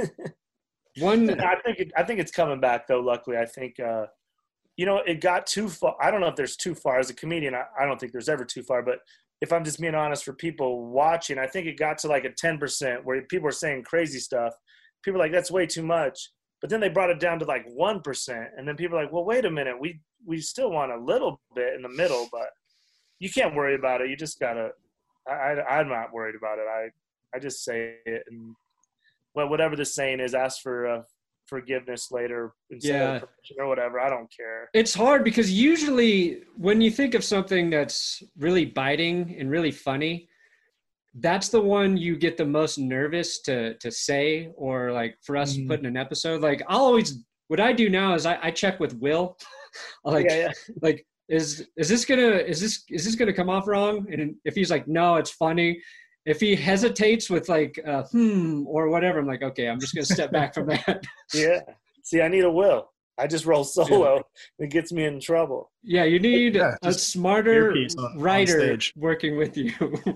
Speaker 1: one
Speaker 3: I think it, I think it's coming back though. Luckily, I think uh, you know it got too far. I don't know if there's too far as a comedian. I, I don't think there's ever too far. But if I'm just being honest, for people watching, I think it got to like a ten percent where people are saying crazy stuff. People are like, that's way too much. But then they brought it down to like one percent, and then people are like, well, wait a minute, we we still want a little bit in the middle, but you can't worry about it. You just gotta. I, I I'm not worried about it. I I just say it, and well, whatever the saying is, ask for uh, forgiveness later instead
Speaker 1: Yeah.
Speaker 3: of permission or whatever. I don't care.
Speaker 1: it's hard because usually when you think of something that's really biting and really funny, that's the one you get the most nervous to to say or like for us to
Speaker 2: Mhm.
Speaker 1: put in an episode. Like I'll always what I do now is I, I check with Will. like
Speaker 3: yeah, yeah.
Speaker 1: like is is this gonna is this is this gonna come off wrong? And if he's like, no, it's funny. If he hesitates with like uh, hmm or whatever, I'm like, okay, I'm just gonna step back from that.
Speaker 3: Yeah. See, I need a will. I just roll solo. It gets me in trouble.
Speaker 1: Yeah, you need
Speaker 2: Yeah,
Speaker 1: a
Speaker 2: just
Speaker 1: smarter
Speaker 2: earpiece on- on
Speaker 1: writer
Speaker 2: stage.
Speaker 1: working with you.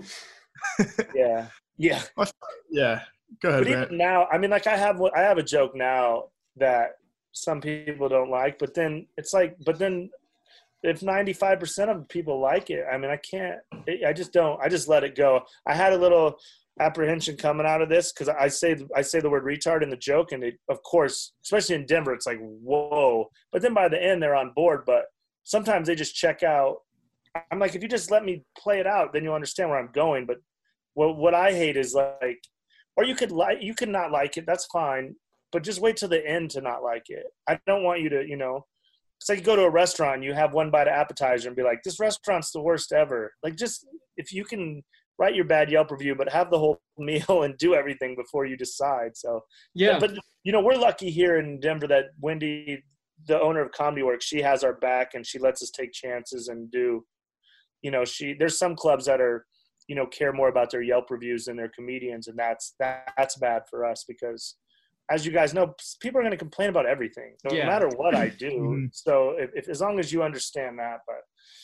Speaker 3: Yeah. Yeah.
Speaker 2: Yeah. Go ahead,
Speaker 3: But
Speaker 2: Brent.
Speaker 3: even now, I mean, like I have, I have a joke now that some people don't like, but then it's like, but then if ninety-five percent of people like it, I mean, I can't, I just don't, I just let it go. I had a little apprehension coming out of this because I say, I say the word retard in the joke, and it, of course, especially in Denver, it's like, whoa. But then by the end, they're on board. But sometimes they just check out. I'm like, if you just let me play it out, then you'll understand where I'm going. But what what I hate is like, or you could like, you could not like it. That's fine. But just wait till the end to not like it. I don't want you to, you know, it's like you go to a restaurant, you have one bite of appetizer and be like, this restaurant's the worst ever. Like, just if you can write your bad Yelp review, but have the whole meal and do everything before you decide. So,
Speaker 1: Yeah.
Speaker 3: But, you know, we're lucky here in Denver that Wendy, the owner of Comedy Works, she has our back and she lets us take chances and do, you know, she, there's some clubs that are, you know, care more about their Yelp reviews than their comedians. And that's, that, that's bad for us because, as you guys know, people are going to complain about everything, no
Speaker 1: Yeah.
Speaker 3: matter what I do.
Speaker 2: Mhm.
Speaker 3: So if, if, as long as you understand that, but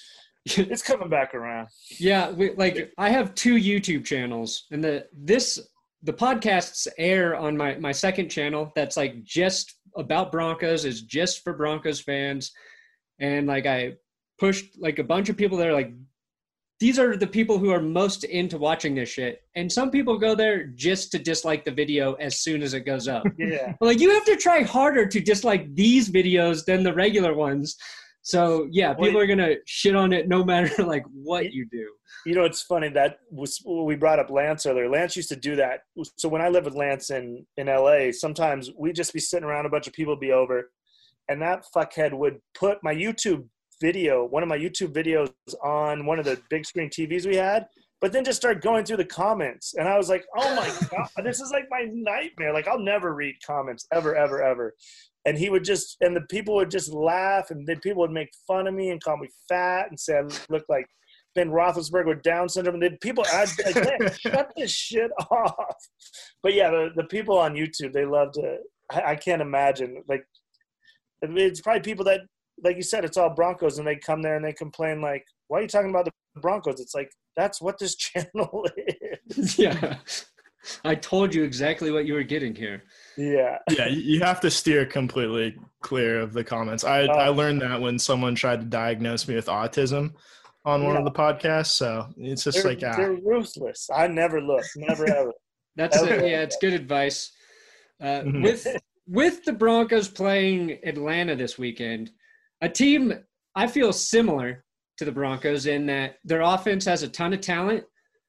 Speaker 3: it's coming back around.
Speaker 1: Yeah, we, like I have two YouTube channels, and the this the podcasts air on my my second channel. That's like just about Broncos, is just for Broncos fans, and like I pushed like a bunch of people there. Like these are the people who are most into watching this shit, and some people go there just to dislike the video as soon as it goes up.
Speaker 3: Yeah.
Speaker 1: But, like you have to try harder to dislike these videos than the regular ones. So yeah, people
Speaker 3: Well,
Speaker 1: are gonna shit on it no matter like what you do.
Speaker 3: You know, it's funny that was, we brought up Lance earlier. Lance used to do that. So when I lived with Lance in, in L A, sometimes we'd just be sitting around, a bunch of people would be over, and that fuckhead would put my YouTube video, one of my YouTube videos on one of the big screen T Vs we had, but then just start going through the comments. And I was like, oh my God, this is like my nightmare. Like I'll never read comments ever, ever, ever. And he would just, and the people would just laugh, and then people would make fun of me and call me fat and say I looked like Ben Roethlisberger with Down syndrome. And then people, I'd be like, man, shut this shit off. But yeah, the, the people on YouTube, they love to, I, I can't imagine. Like, it's probably people that, like you said, it's all Broncos, and they come there and they complain like, why are you talking about the Broncos? It's like, that's what this channel is.
Speaker 1: Yeah. I told you exactly what you were getting here.
Speaker 3: Yeah.
Speaker 2: Yeah, you have to steer completely clear of the comments. I, uh, I learned that when someone tried to diagnose me with autism on one yeah. of the podcasts. So it's just
Speaker 3: they're,
Speaker 2: like ah.
Speaker 3: they're ruthless. I never look, never ever.
Speaker 1: That's ever. A, yeah, it's good advice. Uh, mm-hmm. With with the Broncos playing Atlanta this weekend, a team I feel similar to the Broncos in that their offense has a ton of talent.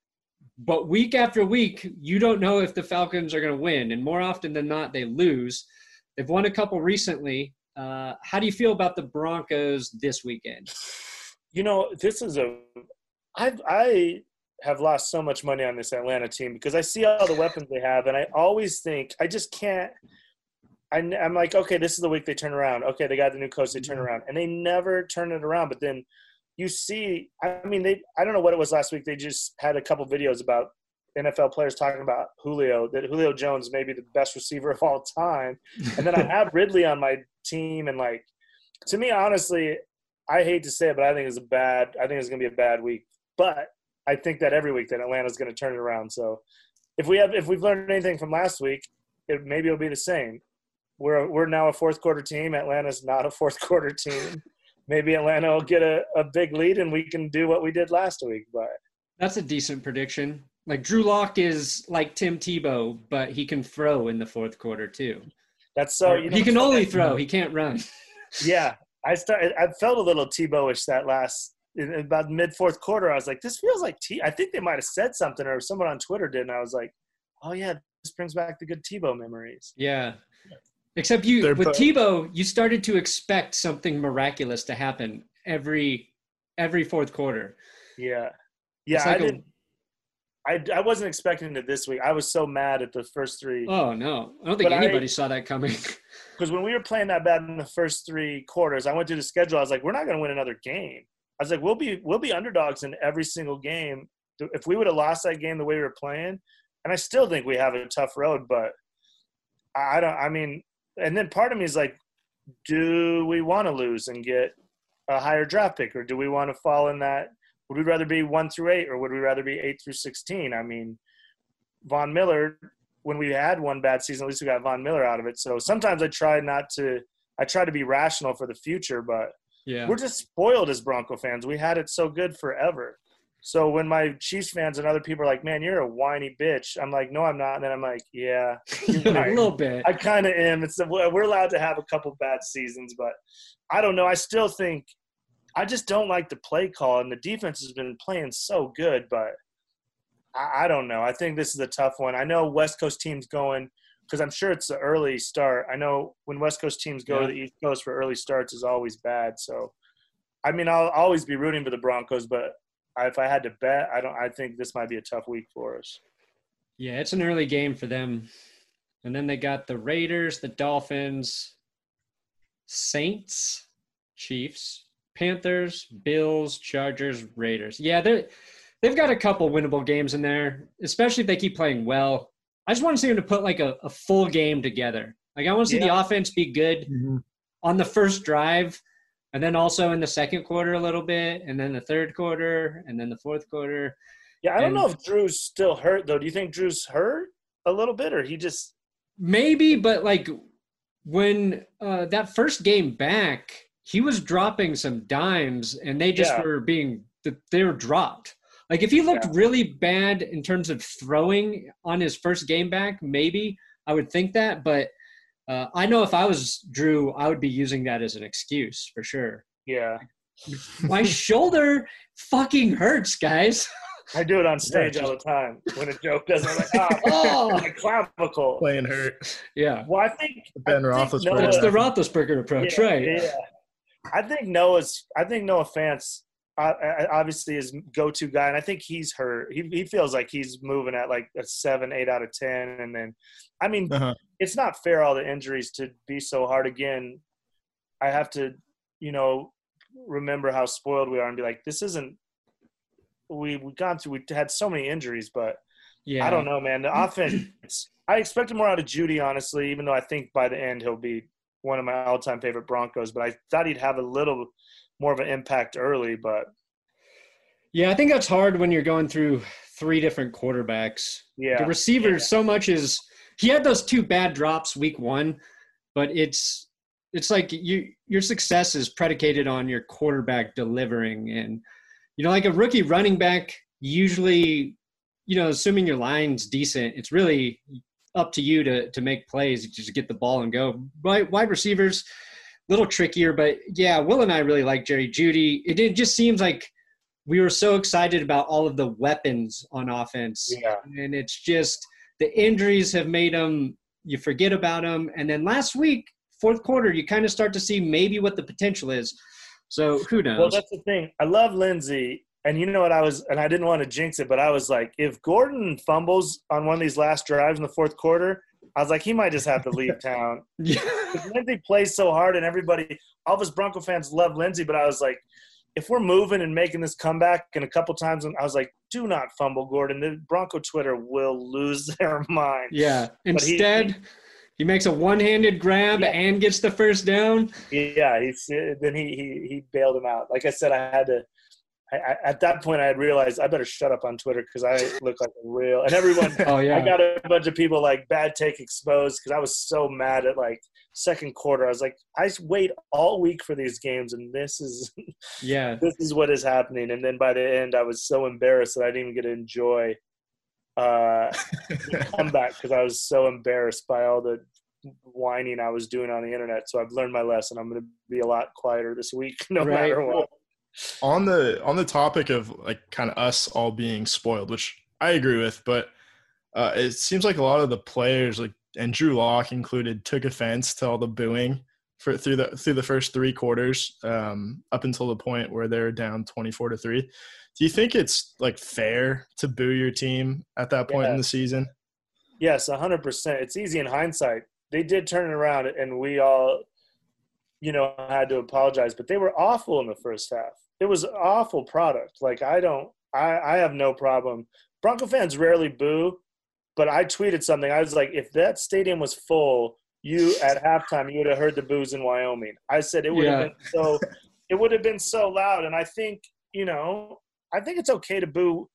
Speaker 1: But week after week, you don't know if the Falcons are going to win. And more often than not, they lose. They've won a couple recently. Uh, how do you feel about the Broncos this weekend?
Speaker 3: You know, this is a – I I have lost so much money on this Atlanta team because I see all the weapons they have, and I always think – I just can't – I'm like, okay, this is the week they turn around. Okay, they got the new coach, they turn around. And they never turn it around. But then – you see, I mean, they, I don't know what it was last week. They just had a couple videos about N F L players talking about Julio, that Julio Jones may be the best receiver of all time. And then I have Ridley on my team. And, like, to me, honestly, I hate to say it, but I think it's a bad, I think it's going to be a bad week. But I think that every week that Atlanta's going to turn it around. So if we have, if we've learned anything from last week, it, maybe it'll be the same. We're, we're now a fourth quarter team. Atlanta's not a fourth quarter team. Maybe Atlanta will get a, a big lead and we can do what we did last week. But
Speaker 1: that's a decent prediction. Like Drew Lock is like Tim Tebow, but he can throw in the fourth quarter too.
Speaker 3: That's so. You know,
Speaker 1: he can only throw. He can't run.
Speaker 3: Yeah, I started. I felt a little Tebow-ish that last in about mid fourth quarter. I was like, this feels like T. I think they might have said something, or someone on Twitter did, and I was like, oh yeah, this brings back the good Tebow memories.
Speaker 1: Yeah. Except you, They're with both. Tebow, you started to expect something miraculous to happen every every fourth quarter.
Speaker 3: Yeah, yeah. Like I a, didn't. I I wasn't expecting it this week. I was so mad at the first three.
Speaker 1: Oh no, I don't think but anybody I, saw that coming.
Speaker 3: Because when we were playing that bad in the first three quarters, I went through the schedule. I was like, we're not going to win another game. I was like, we'll be we'll be underdogs in every single game. If we would have lost that game the way we were playing, and I still think we have a tough road, but I don't. I mean. And then part of me is like, do we want to lose and get a higher draft pick, or do we want to fall in that? Would we rather be one through eight, or would we rather be eight through sixteen? I mean, Von Miller, when we had one bad season, at least we got Von Miller out of it. So sometimes I try not to – I try to be rational for the future, but yeah. We're just spoiled as Bronco fans. We had it so good forever. So when my Chiefs fans and other people are like, man, you're a whiny bitch, I'm like, no, I'm not. And then I'm like, yeah.
Speaker 1: Right. A little bit.
Speaker 3: I kind of am. It's We're allowed to have a couple bad seasons, but I don't know. I still think – I just don't like the play call, and the defense has been playing so good, but I, I don't know. I think this is a tough one. I know West Coast teams going – because I'm sure it's an early start. I know when West Coast teams go yeah. to the East Coast for early starts is always bad. So, I mean, I'll always be rooting for the Broncos, but – if I had to bet, I don't. I think this might be a tough week for us.
Speaker 1: Yeah, it's an early game for them. And then they got the Raiders, the Dolphins, Saints, Chiefs, Panthers, Bills, Chargers, Raiders. Yeah, they they've got a couple winnable games in there, especially if they keep playing well. I just want to see them to put like a, a full game together. Like I want to see yeah. the offense be good mm-hmm. on the first drive. And then also in the second quarter a little bit, and then the third quarter, and then the fourth quarter.
Speaker 3: Yeah, I don't
Speaker 1: and
Speaker 3: know if Drew's still hurt, though. Do you think Drew's hurt a little bit, or he just –
Speaker 1: Maybe, but, like, when uh, that first game back, he was dropping some dimes, and they just yeah. were being – they were dropped. Like, if he looked yeah. really bad in terms of throwing on his first game back, maybe I would think that, but – Uh, I know if I was Drew, I would be using that as an excuse for sure.
Speaker 3: Yeah.
Speaker 1: My shoulder fucking hurts, guys.
Speaker 3: I do it on stage all the time. When a joke doesn't, I'm like, oh, my clavicle.
Speaker 2: Playing hurt.
Speaker 1: Yeah.
Speaker 3: Well, I think –
Speaker 2: Ben Roethlisberger.
Speaker 1: It's the Roethlisberger approach,
Speaker 3: yeah,
Speaker 1: right?
Speaker 3: Yeah. I think Noah's – I think Noah Fant I, I, obviously his go-to guy, and I think he's hurt. He he feels like he's moving at like a seven, eight out of ten, and then, I mean, uh-huh. it's not fair all the injuries to be so hard. Again, I have to, you know, remember how spoiled we are and be like, this isn't. We we gone through. We had so many injuries, but yeah, I don't know, man. The offense. I expected more out of Jeudy, honestly, even though I think by the end he'll be one of my all-time favorite Broncos. But I thought he'd have a little more of an impact early, but
Speaker 1: yeah, I think that's hard when you're going through three different quarterbacks.
Speaker 3: Yeah,
Speaker 1: the receiver
Speaker 3: yeah.
Speaker 1: so much is he had those two bad drops week one, but it's it's like you your success is predicated on your quarterback delivering, and you know, like a rookie running back usually, you know, assuming your line's decent, it's really up to you to to make plays, just get the ball and go. Wide, wide receivers. Little trickier, but yeah, Will and I really like Jerry Jeudy. It, it just seems like we were so excited about all of the weapons on offense.
Speaker 3: Yeah.
Speaker 1: And it's just the injuries have made them, you forget about them. And then last week, fourth quarter, you kind of start to see maybe what the potential is. So who knows?
Speaker 3: Well, that's the thing. I love Lindsey. And you know what I was – and I didn't want to jinx it, but I was like, if Gordon fumbles on one of these last drives in the fourth quarter – I was like, he might just have to leave town.
Speaker 1: Yeah.
Speaker 3: Lindsey plays so hard, and everybody, all of us Bronco fans love Lindsey. But I was like, if we're moving and making this comeback, and a couple times, I was like, do not fumble, Gordon. The Bronco Twitter will lose their mind.
Speaker 1: Yeah. Instead, he, he makes a one-handed grab yeah. and gets the first down.
Speaker 3: Yeah. He's, then he he he bailed him out. Like I said, I had to. I, at that point, I had realized I better shut up on Twitter because I look like a real – and everyone –
Speaker 1: oh, yeah.
Speaker 3: I got a bunch of people like bad take exposed because I was so mad at like second quarter. I was like, I wait all week for these games, and this is –
Speaker 1: yeah,
Speaker 3: this is what is happening. And then by the end, I was so embarrassed that I didn't even get to enjoy uh, the comeback because I was so embarrassed by all the whining I was doing on the internet. So I've learned my lesson. I'm going to be a lot quieter this week no
Speaker 1: right.
Speaker 3: matter what.
Speaker 2: On the on the topic of like kind of us all being spoiled, which I agree with, but uh, it seems like a lot of the players, like and Drew Lock included, took offense to all the booing for through the through the first three quarters, um, up until the point where they're down twenty-four to three. Do you think it's like fair to boo your team at that point
Speaker 3: yeah.
Speaker 2: in the season?
Speaker 3: Yes, a hundred percent. It's easy in hindsight. They did turn it around, and we all, you know, had to apologize. But they were awful in the first half. It was an awful product. Like, I don't – I I have no problem. Bronco fans rarely boo, but I tweeted something. I was like, if that stadium was full, you at halftime, you would have heard the boos in Wyoming. I said it would
Speaker 1: yeah.
Speaker 3: have been so – it would have been so loud. And I think, you know, I think it's okay to boo.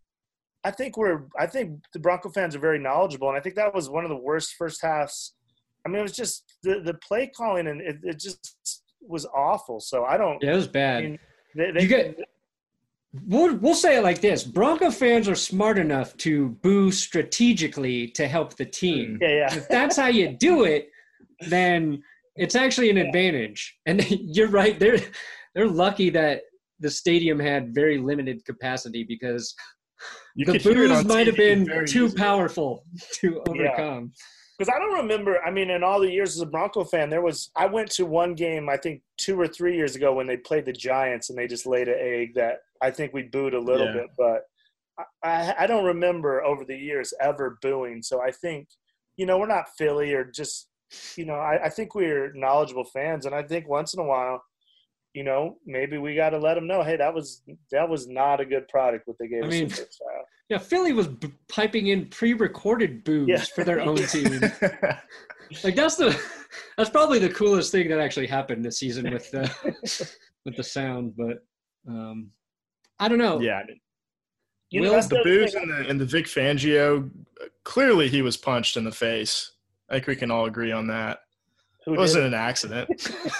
Speaker 3: I think we're – I think the Bronco fans are very knowledgeable, and I think that was one of the worst first halves. I mean, it was just the, the play calling, and it, it just was awful. So I don't –
Speaker 1: Yeah, it was bad.
Speaker 3: I mean, They, they,
Speaker 1: you get, we'll, we'll say it like this. Bronco fans are smart enough to boo strategically to help the team.
Speaker 3: Yeah, yeah.
Speaker 1: If that's how you do it, then it's actually an advantage. And you're right. They're, they're lucky that the stadium had very limited capacity because
Speaker 2: you
Speaker 1: the boos might have been too
Speaker 2: easily.
Speaker 1: powerful to overcome.
Speaker 3: Yeah. Because I don't remember, I mean, in all the years as a Bronco fan, there was – I went to one game, I think, two or three years ago when they played the Giants and they just laid an egg that I think we booed a little
Speaker 2: yeah.
Speaker 3: bit. But I, I don't remember over the years ever booing. So I think, you know, we're not Philly or just – you know, I, I think we're knowledgeable fans. And I think once in a while, you know, maybe we got to let them know, hey, that was that was not a good product what they gave
Speaker 1: I
Speaker 3: us.
Speaker 1: mean,
Speaker 3: in the first half.
Speaker 1: Yeah, Philly was b- piping in pre-recorded boos
Speaker 3: Yeah.
Speaker 1: for their own team. Like that's the that's probably the coolest thing that actually happened this season with the with the sound. But um, I don't know.
Speaker 2: Yeah,
Speaker 3: You know,
Speaker 2: Will,
Speaker 3: that's
Speaker 2: the
Speaker 3: the
Speaker 2: boos
Speaker 3: thing.
Speaker 2: and the, and the Vic Fangio, clearly he was punched in the face. I think we can all agree on that.
Speaker 3: Who
Speaker 2: It
Speaker 3: did
Speaker 2: wasn't
Speaker 3: it?
Speaker 2: an accident.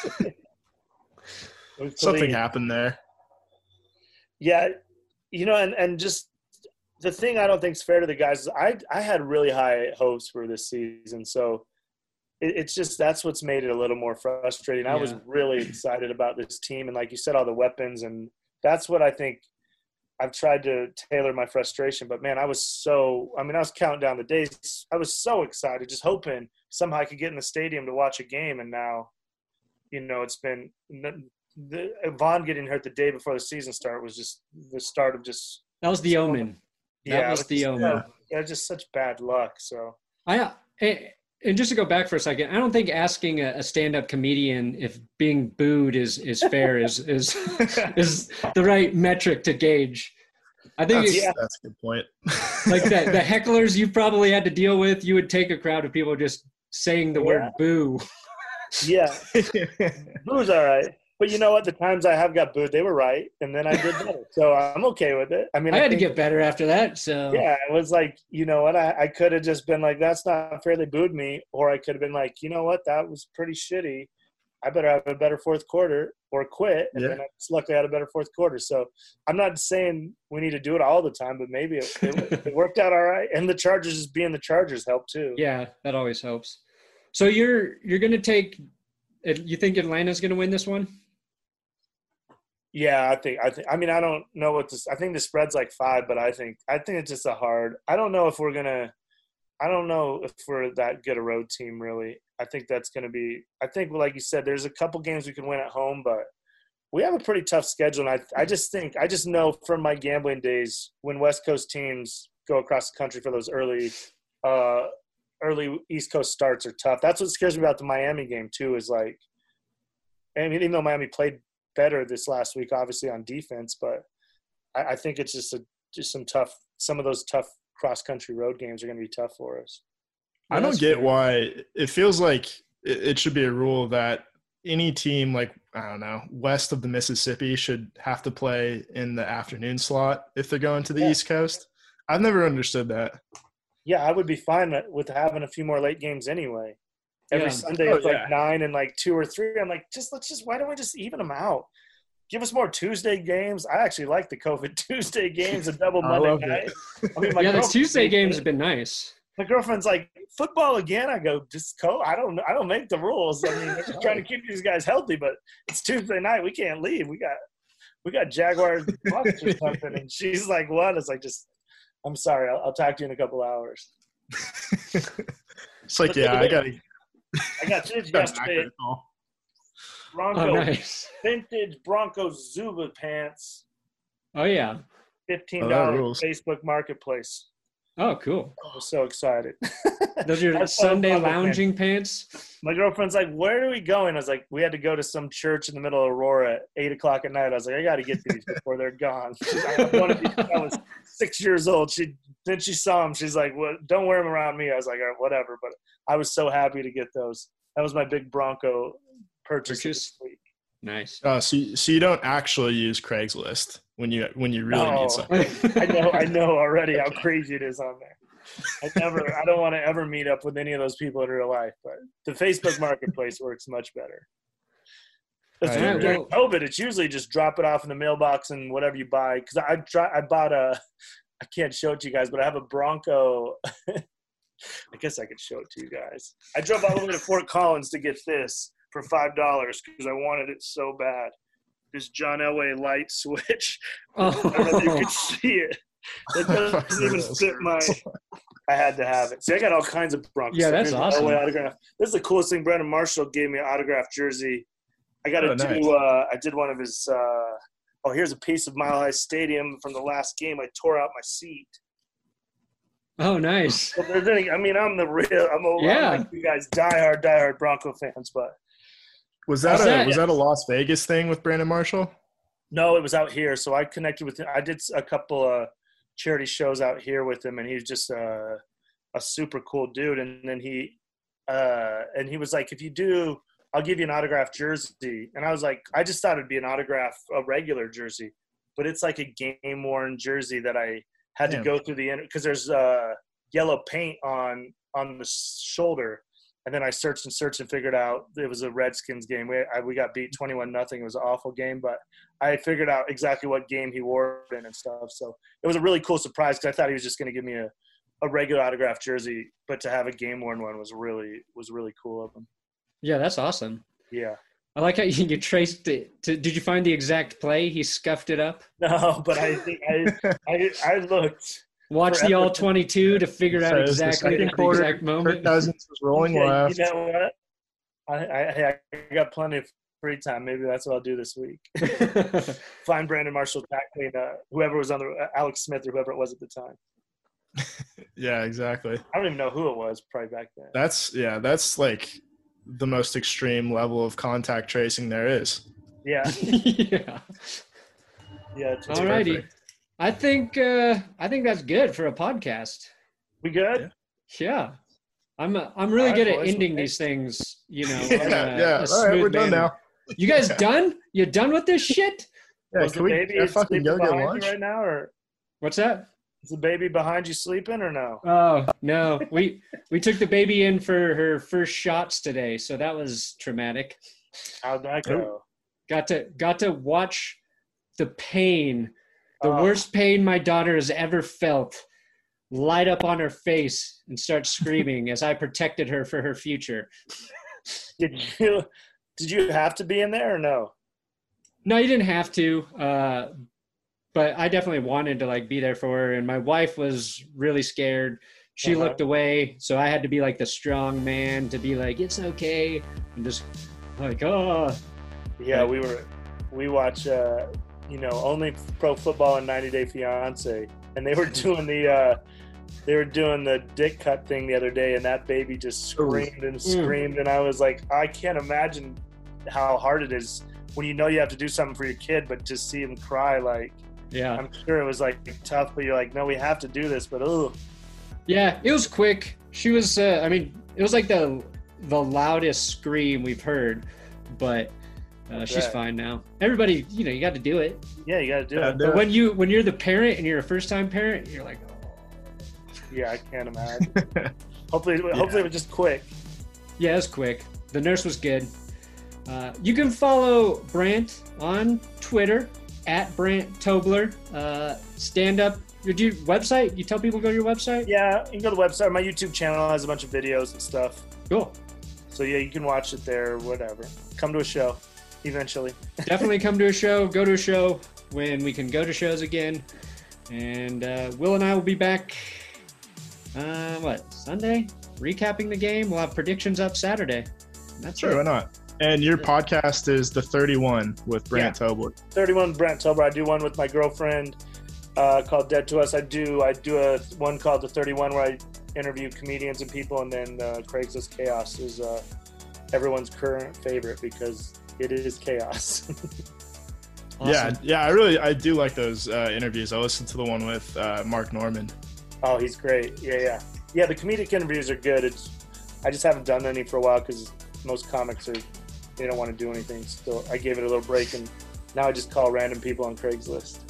Speaker 3: It was
Speaker 2: Something
Speaker 3: Khalid.
Speaker 2: happened there.
Speaker 3: Yeah, you know, and, and just the thing I don't think is fair to the guys is I I had really high hopes for this season, so it, it's just that's what's made it a little more frustrating. I was
Speaker 1: Yeah.
Speaker 3: really excited about this team, and like you said, all the weapons, and that's what I think I've tried to tailor my frustration. But man, I was so I mean, I was counting down the days. I was so excited, just hoping somehow I could get in the stadium to watch a game, and now, you know, it's been the Vaughn getting hurt the day before the season start was just the start of just.
Speaker 1: That was the omen. That
Speaker 3: Yeah,
Speaker 1: was the
Speaker 3: just,
Speaker 1: omen.
Speaker 3: yeah, just such bad luck. So
Speaker 1: I and just to go back for a second, I don't think asking a, a stand-up comedian if being booed is is fair is is is the right metric to gauge. I think
Speaker 2: That's,
Speaker 1: it's,
Speaker 3: yeah.
Speaker 2: that's a good point.
Speaker 1: like that the hecklers you probably had to deal with, you would take a crowd of people just saying the
Speaker 3: Yeah.
Speaker 1: word boo.
Speaker 3: yeah, boo's all right. But you know what? The times I have got booed, they were right, and then I did better. So I'm okay with it. I mean,
Speaker 1: I
Speaker 3: I
Speaker 1: had to
Speaker 3: think-
Speaker 1: get better after that. So
Speaker 3: Yeah, it was like, you know what? I, I could have just been like, that's not fair. They booed me. Or I could have been like, you know what? That was pretty shitty. I better have a better fourth quarter or quit. And
Speaker 2: Yeah.
Speaker 3: then I just luckily had a better fourth quarter. So I'm not saying we need to do it all the time, but maybe it, it, it worked out all right. And the Chargers just being the Chargers helped too.
Speaker 1: yeah, that always helps. So you're you're gonna take. You think Atlanta's gonna win this one?
Speaker 3: Yeah, I think I think I mean I don't know what this I think the spread's like five, but I think I think it's just a hard I don't know if we're gonna I don't know if we're that good a road team really. I think that's gonna be I think like you said, there's a couple games we can win at home, but we have a pretty tough schedule, and I I just think I just know from my gambling days when West Coast teams go across the country for those early uh early East Coast starts are tough. That's what scares me about the Miami game too, is like I mean even though Miami played better this last week, obviously on defense, but I, I think it's just a just some tough. Some of those tough cross country road games are going to be tough for us.
Speaker 2: I
Speaker 1: Yeah,
Speaker 2: don't
Speaker 1: that's
Speaker 2: get
Speaker 1: fair.
Speaker 2: why it feels like it, it should be a rule that any team like, I don't know, west of the Mississippi should have to play in the afternoon slot if they're going to the
Speaker 3: Yeah.
Speaker 2: East Coast. I've never understood that.
Speaker 3: Yeah, I would be fine with having a few more late games anyway. Every
Speaker 1: Yeah.
Speaker 3: Sunday
Speaker 2: Oh,
Speaker 3: it's
Speaker 2: yeah.
Speaker 3: like nine and like two or three. I'm like, just let's just why don't we just even them out? Give us more Tuesday games. I actually like the COVID Tuesday games, a double
Speaker 2: I
Speaker 3: Monday
Speaker 2: love
Speaker 3: night.
Speaker 2: it.
Speaker 3: I mean, my
Speaker 1: Yeah, the
Speaker 3: girlfriend-
Speaker 1: Tuesday games have been nice.
Speaker 3: My girlfriend's like, football again. I go, just co. I don't. I don't make the rules. I mean, we're just trying to keep these guys healthy, but it's Tuesday night. We can't leave. We got, we got Jaguars Bucks or something. And she's like, what? It's like, just, I'm sorry. I'll, I'll talk to you in a couple hours.
Speaker 2: It's like, yeah, I got to
Speaker 3: I got this
Speaker 2: got an
Speaker 3: yesterday.
Speaker 2: accurate call.
Speaker 3: Bronco
Speaker 1: Oh, nice.
Speaker 3: vintage Bronco Zuba pants,
Speaker 1: Oh yeah.
Speaker 3: fifteen
Speaker 2: Oh, that
Speaker 3: dollars
Speaker 2: rules.
Speaker 3: Facebook Marketplace.
Speaker 1: Oh, cool.
Speaker 3: I was so excited.
Speaker 1: Those are your
Speaker 3: That's so
Speaker 1: Sunday
Speaker 3: fun, man.
Speaker 1: lounging pants.
Speaker 3: My girlfriend's like, "Where are we going?" I was like, "We had to go to some church in the middle of Aurora at eight o'clock at night." I was like, "I got to get these before they're gone." She's like, I wanted these when I was six years old. She then she saw them. She's like, "Well, don't wear them around me." I was like, "All right, whatever." But I was so happy to get those. That was my big Bronco purchase.
Speaker 1: Purchase?
Speaker 3: This week.
Speaker 1: Nice.
Speaker 2: Oh, so you, so you don't actually use Craigslist when you when you really
Speaker 3: No.
Speaker 2: need something.
Speaker 3: I know, I know already how crazy it is on there. I never, I don't want to ever meet up with any of those people in real life, but the Facebook Marketplace works much better. That's
Speaker 2: I
Speaker 3: true.
Speaker 2: agree.
Speaker 3: During COVID, it's usually just drop it off in the mailbox and whatever you buy. Because I try, I bought a, I can't show it to you guys, but I have a Bronco. I guess I could show it to you guys. I drove all the way to Fort Collins to get this for five dollars because I wanted it so bad. This John Elway light switch. I don't know if you
Speaker 1: Oh,
Speaker 3: could see it. It doesn't even fit my. I had to have it. See, I got all kinds of Broncos.
Speaker 1: Yeah, that's
Speaker 3: Here's the
Speaker 1: awesome.
Speaker 3: Elway autograph. This is the coolest thing. Brandon Marshall gave me an autographed jersey. I got to
Speaker 2: Oh,
Speaker 3: do.
Speaker 2: nice.
Speaker 3: Uh, I did one of his. Uh, oh, here's a piece of Mile High Stadium from the last game. I tore out my seat.
Speaker 1: oh, nice.
Speaker 3: But there's any, I mean, I'm the real. I'm a
Speaker 1: Yeah.
Speaker 3: I'm like you guys, diehard, diehard Bronco fans, but
Speaker 2: Was that
Speaker 1: Was
Speaker 2: a
Speaker 1: that-
Speaker 2: was that a Las Vegas thing with Brandon Marshall?
Speaker 3: no, it was out here. So I connected with him. I did a couple of charity shows out here with him, and he's just a, a super cool dude. And then he, uh, and he was like, if you do, I'll give you an autographed jersey. And I was like, I just thought it'd be an autograph, a regular jersey, but it's like a game worn jersey that I had
Speaker 2: Damn.
Speaker 3: to go through the end because there's uh, yellow paint on on the shoulder. And then I searched and searched and figured out it was a Redskins game. We I, we got beat twenty-one nothing. It was an awful game, but I figured out exactly what game he wore it in and stuff. So it was a really cool surprise because I thought he was just going to give me a, a regular autographed jersey, but to have a game worn one was really was really cool of him.
Speaker 1: Yeah, that's awesome.
Speaker 3: Yeah.
Speaker 1: I like how you, you traced it. To, did you find the exact play? He scuffed it up.
Speaker 3: No, but I think I I, I looked.
Speaker 1: Watch the
Speaker 3: Forever.
Speaker 1: all twenty-two to figure out
Speaker 2: So it was the
Speaker 1: exactly the,
Speaker 2: second quarter,
Speaker 1: exact
Speaker 2: Kirk
Speaker 1: moment.
Speaker 2: Cousins was rolling
Speaker 3: Yeah,
Speaker 2: left.
Speaker 3: you know what? I, I I got plenty of free time. Maybe that's what I'll do this week. Find Brandon Marshall tackling uh, whoever was on the uh, Alex Smith or whoever it was at the time.
Speaker 2: Yeah, exactly.
Speaker 3: I don't even know who it was probably back then.
Speaker 2: That's yeah, that's like the most extreme level of contact tracing there is.
Speaker 3: Yeah.
Speaker 1: Yeah.
Speaker 3: Yeah. It's it's
Speaker 1: Alrighty.
Speaker 3: perfect.
Speaker 1: I think uh, I think that's good for a podcast.
Speaker 3: We good?
Speaker 2: Yeah.
Speaker 1: Yeah. I'm uh, I'm really
Speaker 3: All
Speaker 1: good
Speaker 3: right,
Speaker 1: at
Speaker 3: boys.
Speaker 1: ending these things, you know.
Speaker 2: Yeah,
Speaker 1: on a-
Speaker 2: yeah.
Speaker 1: a
Speaker 2: All right, we're
Speaker 1: smooth
Speaker 2: done
Speaker 1: manner.
Speaker 2: now.
Speaker 1: You guys
Speaker 2: Yeah.
Speaker 1: done? You done with this shit?
Speaker 2: Yeah,
Speaker 3: Was
Speaker 2: can
Speaker 3: the
Speaker 2: we
Speaker 3: baby
Speaker 2: uh, fucking
Speaker 3: sleeping
Speaker 2: go get
Speaker 3: behind
Speaker 2: lunch?
Speaker 3: you right now, or
Speaker 1: What's that?
Speaker 3: is the baby behind you sleeping, or no?
Speaker 1: Oh no, we we took the baby in for her first shots today, so that was traumatic.
Speaker 3: How'd that go?
Speaker 1: Got to got to watch the pain, the
Speaker 3: Oh.
Speaker 1: worst pain my daughter has ever felt, light up on her face and start screaming as I protected her for her future.
Speaker 3: Did you did you have to be in there or no?
Speaker 1: No, you didn't have to, uh, but I definitely wanted to like be there for her. And my wife was really scared. She
Speaker 3: Uh-huh.
Speaker 1: looked away, so I had to be like the strong man to be like, "It's okay," and just like, "Oh."
Speaker 3: Yeah, we were we watch uh, you know, only pro football and ninety Day Fiance, and they were doing the uh, they were doing the dick cut thing the other day, and that baby just screamed and screamed, and I was like, I can't imagine how hard it is when you know you have to do something for your kid, but to see him cry, like
Speaker 1: Yeah.
Speaker 3: I'm sure it was like tough, but you're like, no, we have to do this, but oh,
Speaker 1: Yeah, it was quick. She was, uh, I mean, it was like the the loudest scream we've heard, but uh, she's
Speaker 3: bet.
Speaker 1: fine now. Everybody, you know, you got to do it.
Speaker 3: yeah, you got to do
Speaker 2: Yeah,
Speaker 3: it.
Speaker 2: do
Speaker 1: But
Speaker 2: it.
Speaker 1: when you when you're the parent and you're a first time parent, you're like, oh.
Speaker 3: Yeah, I can't imagine. hopefully, hopefully it was just quick.
Speaker 1: Yeah, it was quick. The nurse was good. Uh, you can follow Brant on Twitter at Brant Tobler. Uh, stand up. Your do you- website? You tell people to go to your website?
Speaker 3: Yeah, you can go to the website. My YouTube channel has a bunch of videos and stuff.
Speaker 1: Cool.
Speaker 3: So yeah, you can watch it there or whatever. Come to a show eventually.
Speaker 1: Definitely come to a show. Go to a show when we can go to shows again. And uh, Will and I will be back. Uh, what Sunday? Recapping the game. We'll have predictions up Saturday. That's
Speaker 2: Sure,
Speaker 1: it.
Speaker 2: why not? And your podcast is the thirty-one with Brant Tobler.
Speaker 3: thirty-one Brent Tober. I do one with my girlfriend uh, called Dead to Us. I do I do a one called the thirty-one where I interview comedians and people, and then uh, Craigslist Chaos is uh, everyone's current favorite because it is chaos.
Speaker 1: Awesome.
Speaker 2: Yeah, yeah, I really I do like those uh, interviews. I listened to the one with uh, Mark Norman.
Speaker 3: Oh, he's great. Yeah, yeah, yeah. The comedic interviews are good. It's I just haven't done any for a while because most comics are they don't want to do anything. So I gave it a little break, and now I just call random people on Craigslist.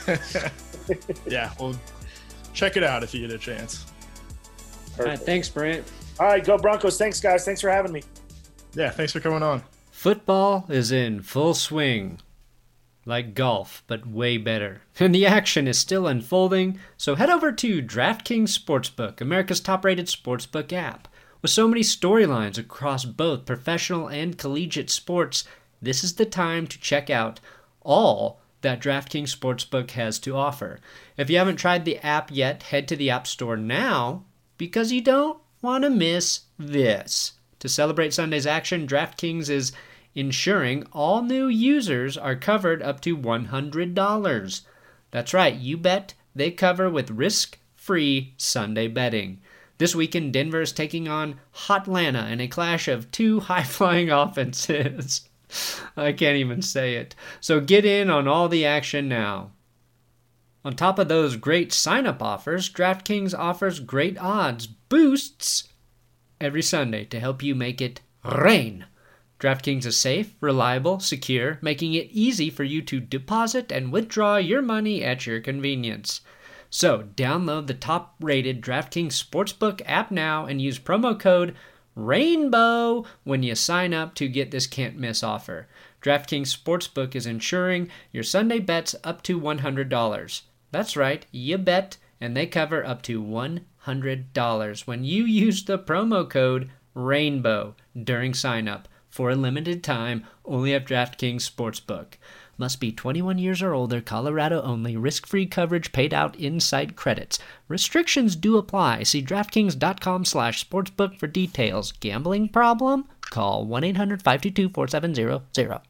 Speaker 2: Yeah, well, check it out if you get a chance.
Speaker 1: All right,
Speaker 3: Perfect.
Speaker 1: thanks, Brant.
Speaker 3: All right, go Broncos. Thanks, guys. Thanks for having me.
Speaker 2: Yeah, thanks for coming on.
Speaker 1: Football is in full swing. Like golf, but way better. And the action is still unfolding, so head over to DraftKings Sportsbook, America's top-rated sportsbook app. With so many storylines across both professional and collegiate sports, this is the time to check out all that DraftKings Sportsbook has to offer. If you haven't tried the app yet, head to the App Store now because you don't want to miss this. To celebrate Sunday's action, DraftKings is ensuring all new users are covered up to one hundred dollars. That's right, you bet they cover with risk-free Sunday betting. This weekend, Denver is taking on Hotlanta in a clash of two high-flying offenses. I can't even say it. So get in on all the action now. On top of those great sign-up offers, DraftKings offers great odds boosts every Sunday to help you make it rain. DraftKings is safe, reliable, secure, making it easy for you to deposit and withdraw your money at your convenience. So, download the top-rated DraftKings Sportsbook app now and use promo code RAINBOW when you sign up to get this can't-miss offer. DraftKings Sportsbook is insuring your Sunday bets up to one hundred dollars. That's right, you bet, and they cover up to one hundred dollars when you use the promo code RAINBOW during sign-up. For a limited time, only at DraftKings Sportsbook. Must be twenty-one years or older, Colorado only. Risk-free coverage paid out in site credits. Restrictions do apply. See DraftKings.com slash sportsbook for details. Gambling problem? Call one eight hundred five two two four seven zero zero.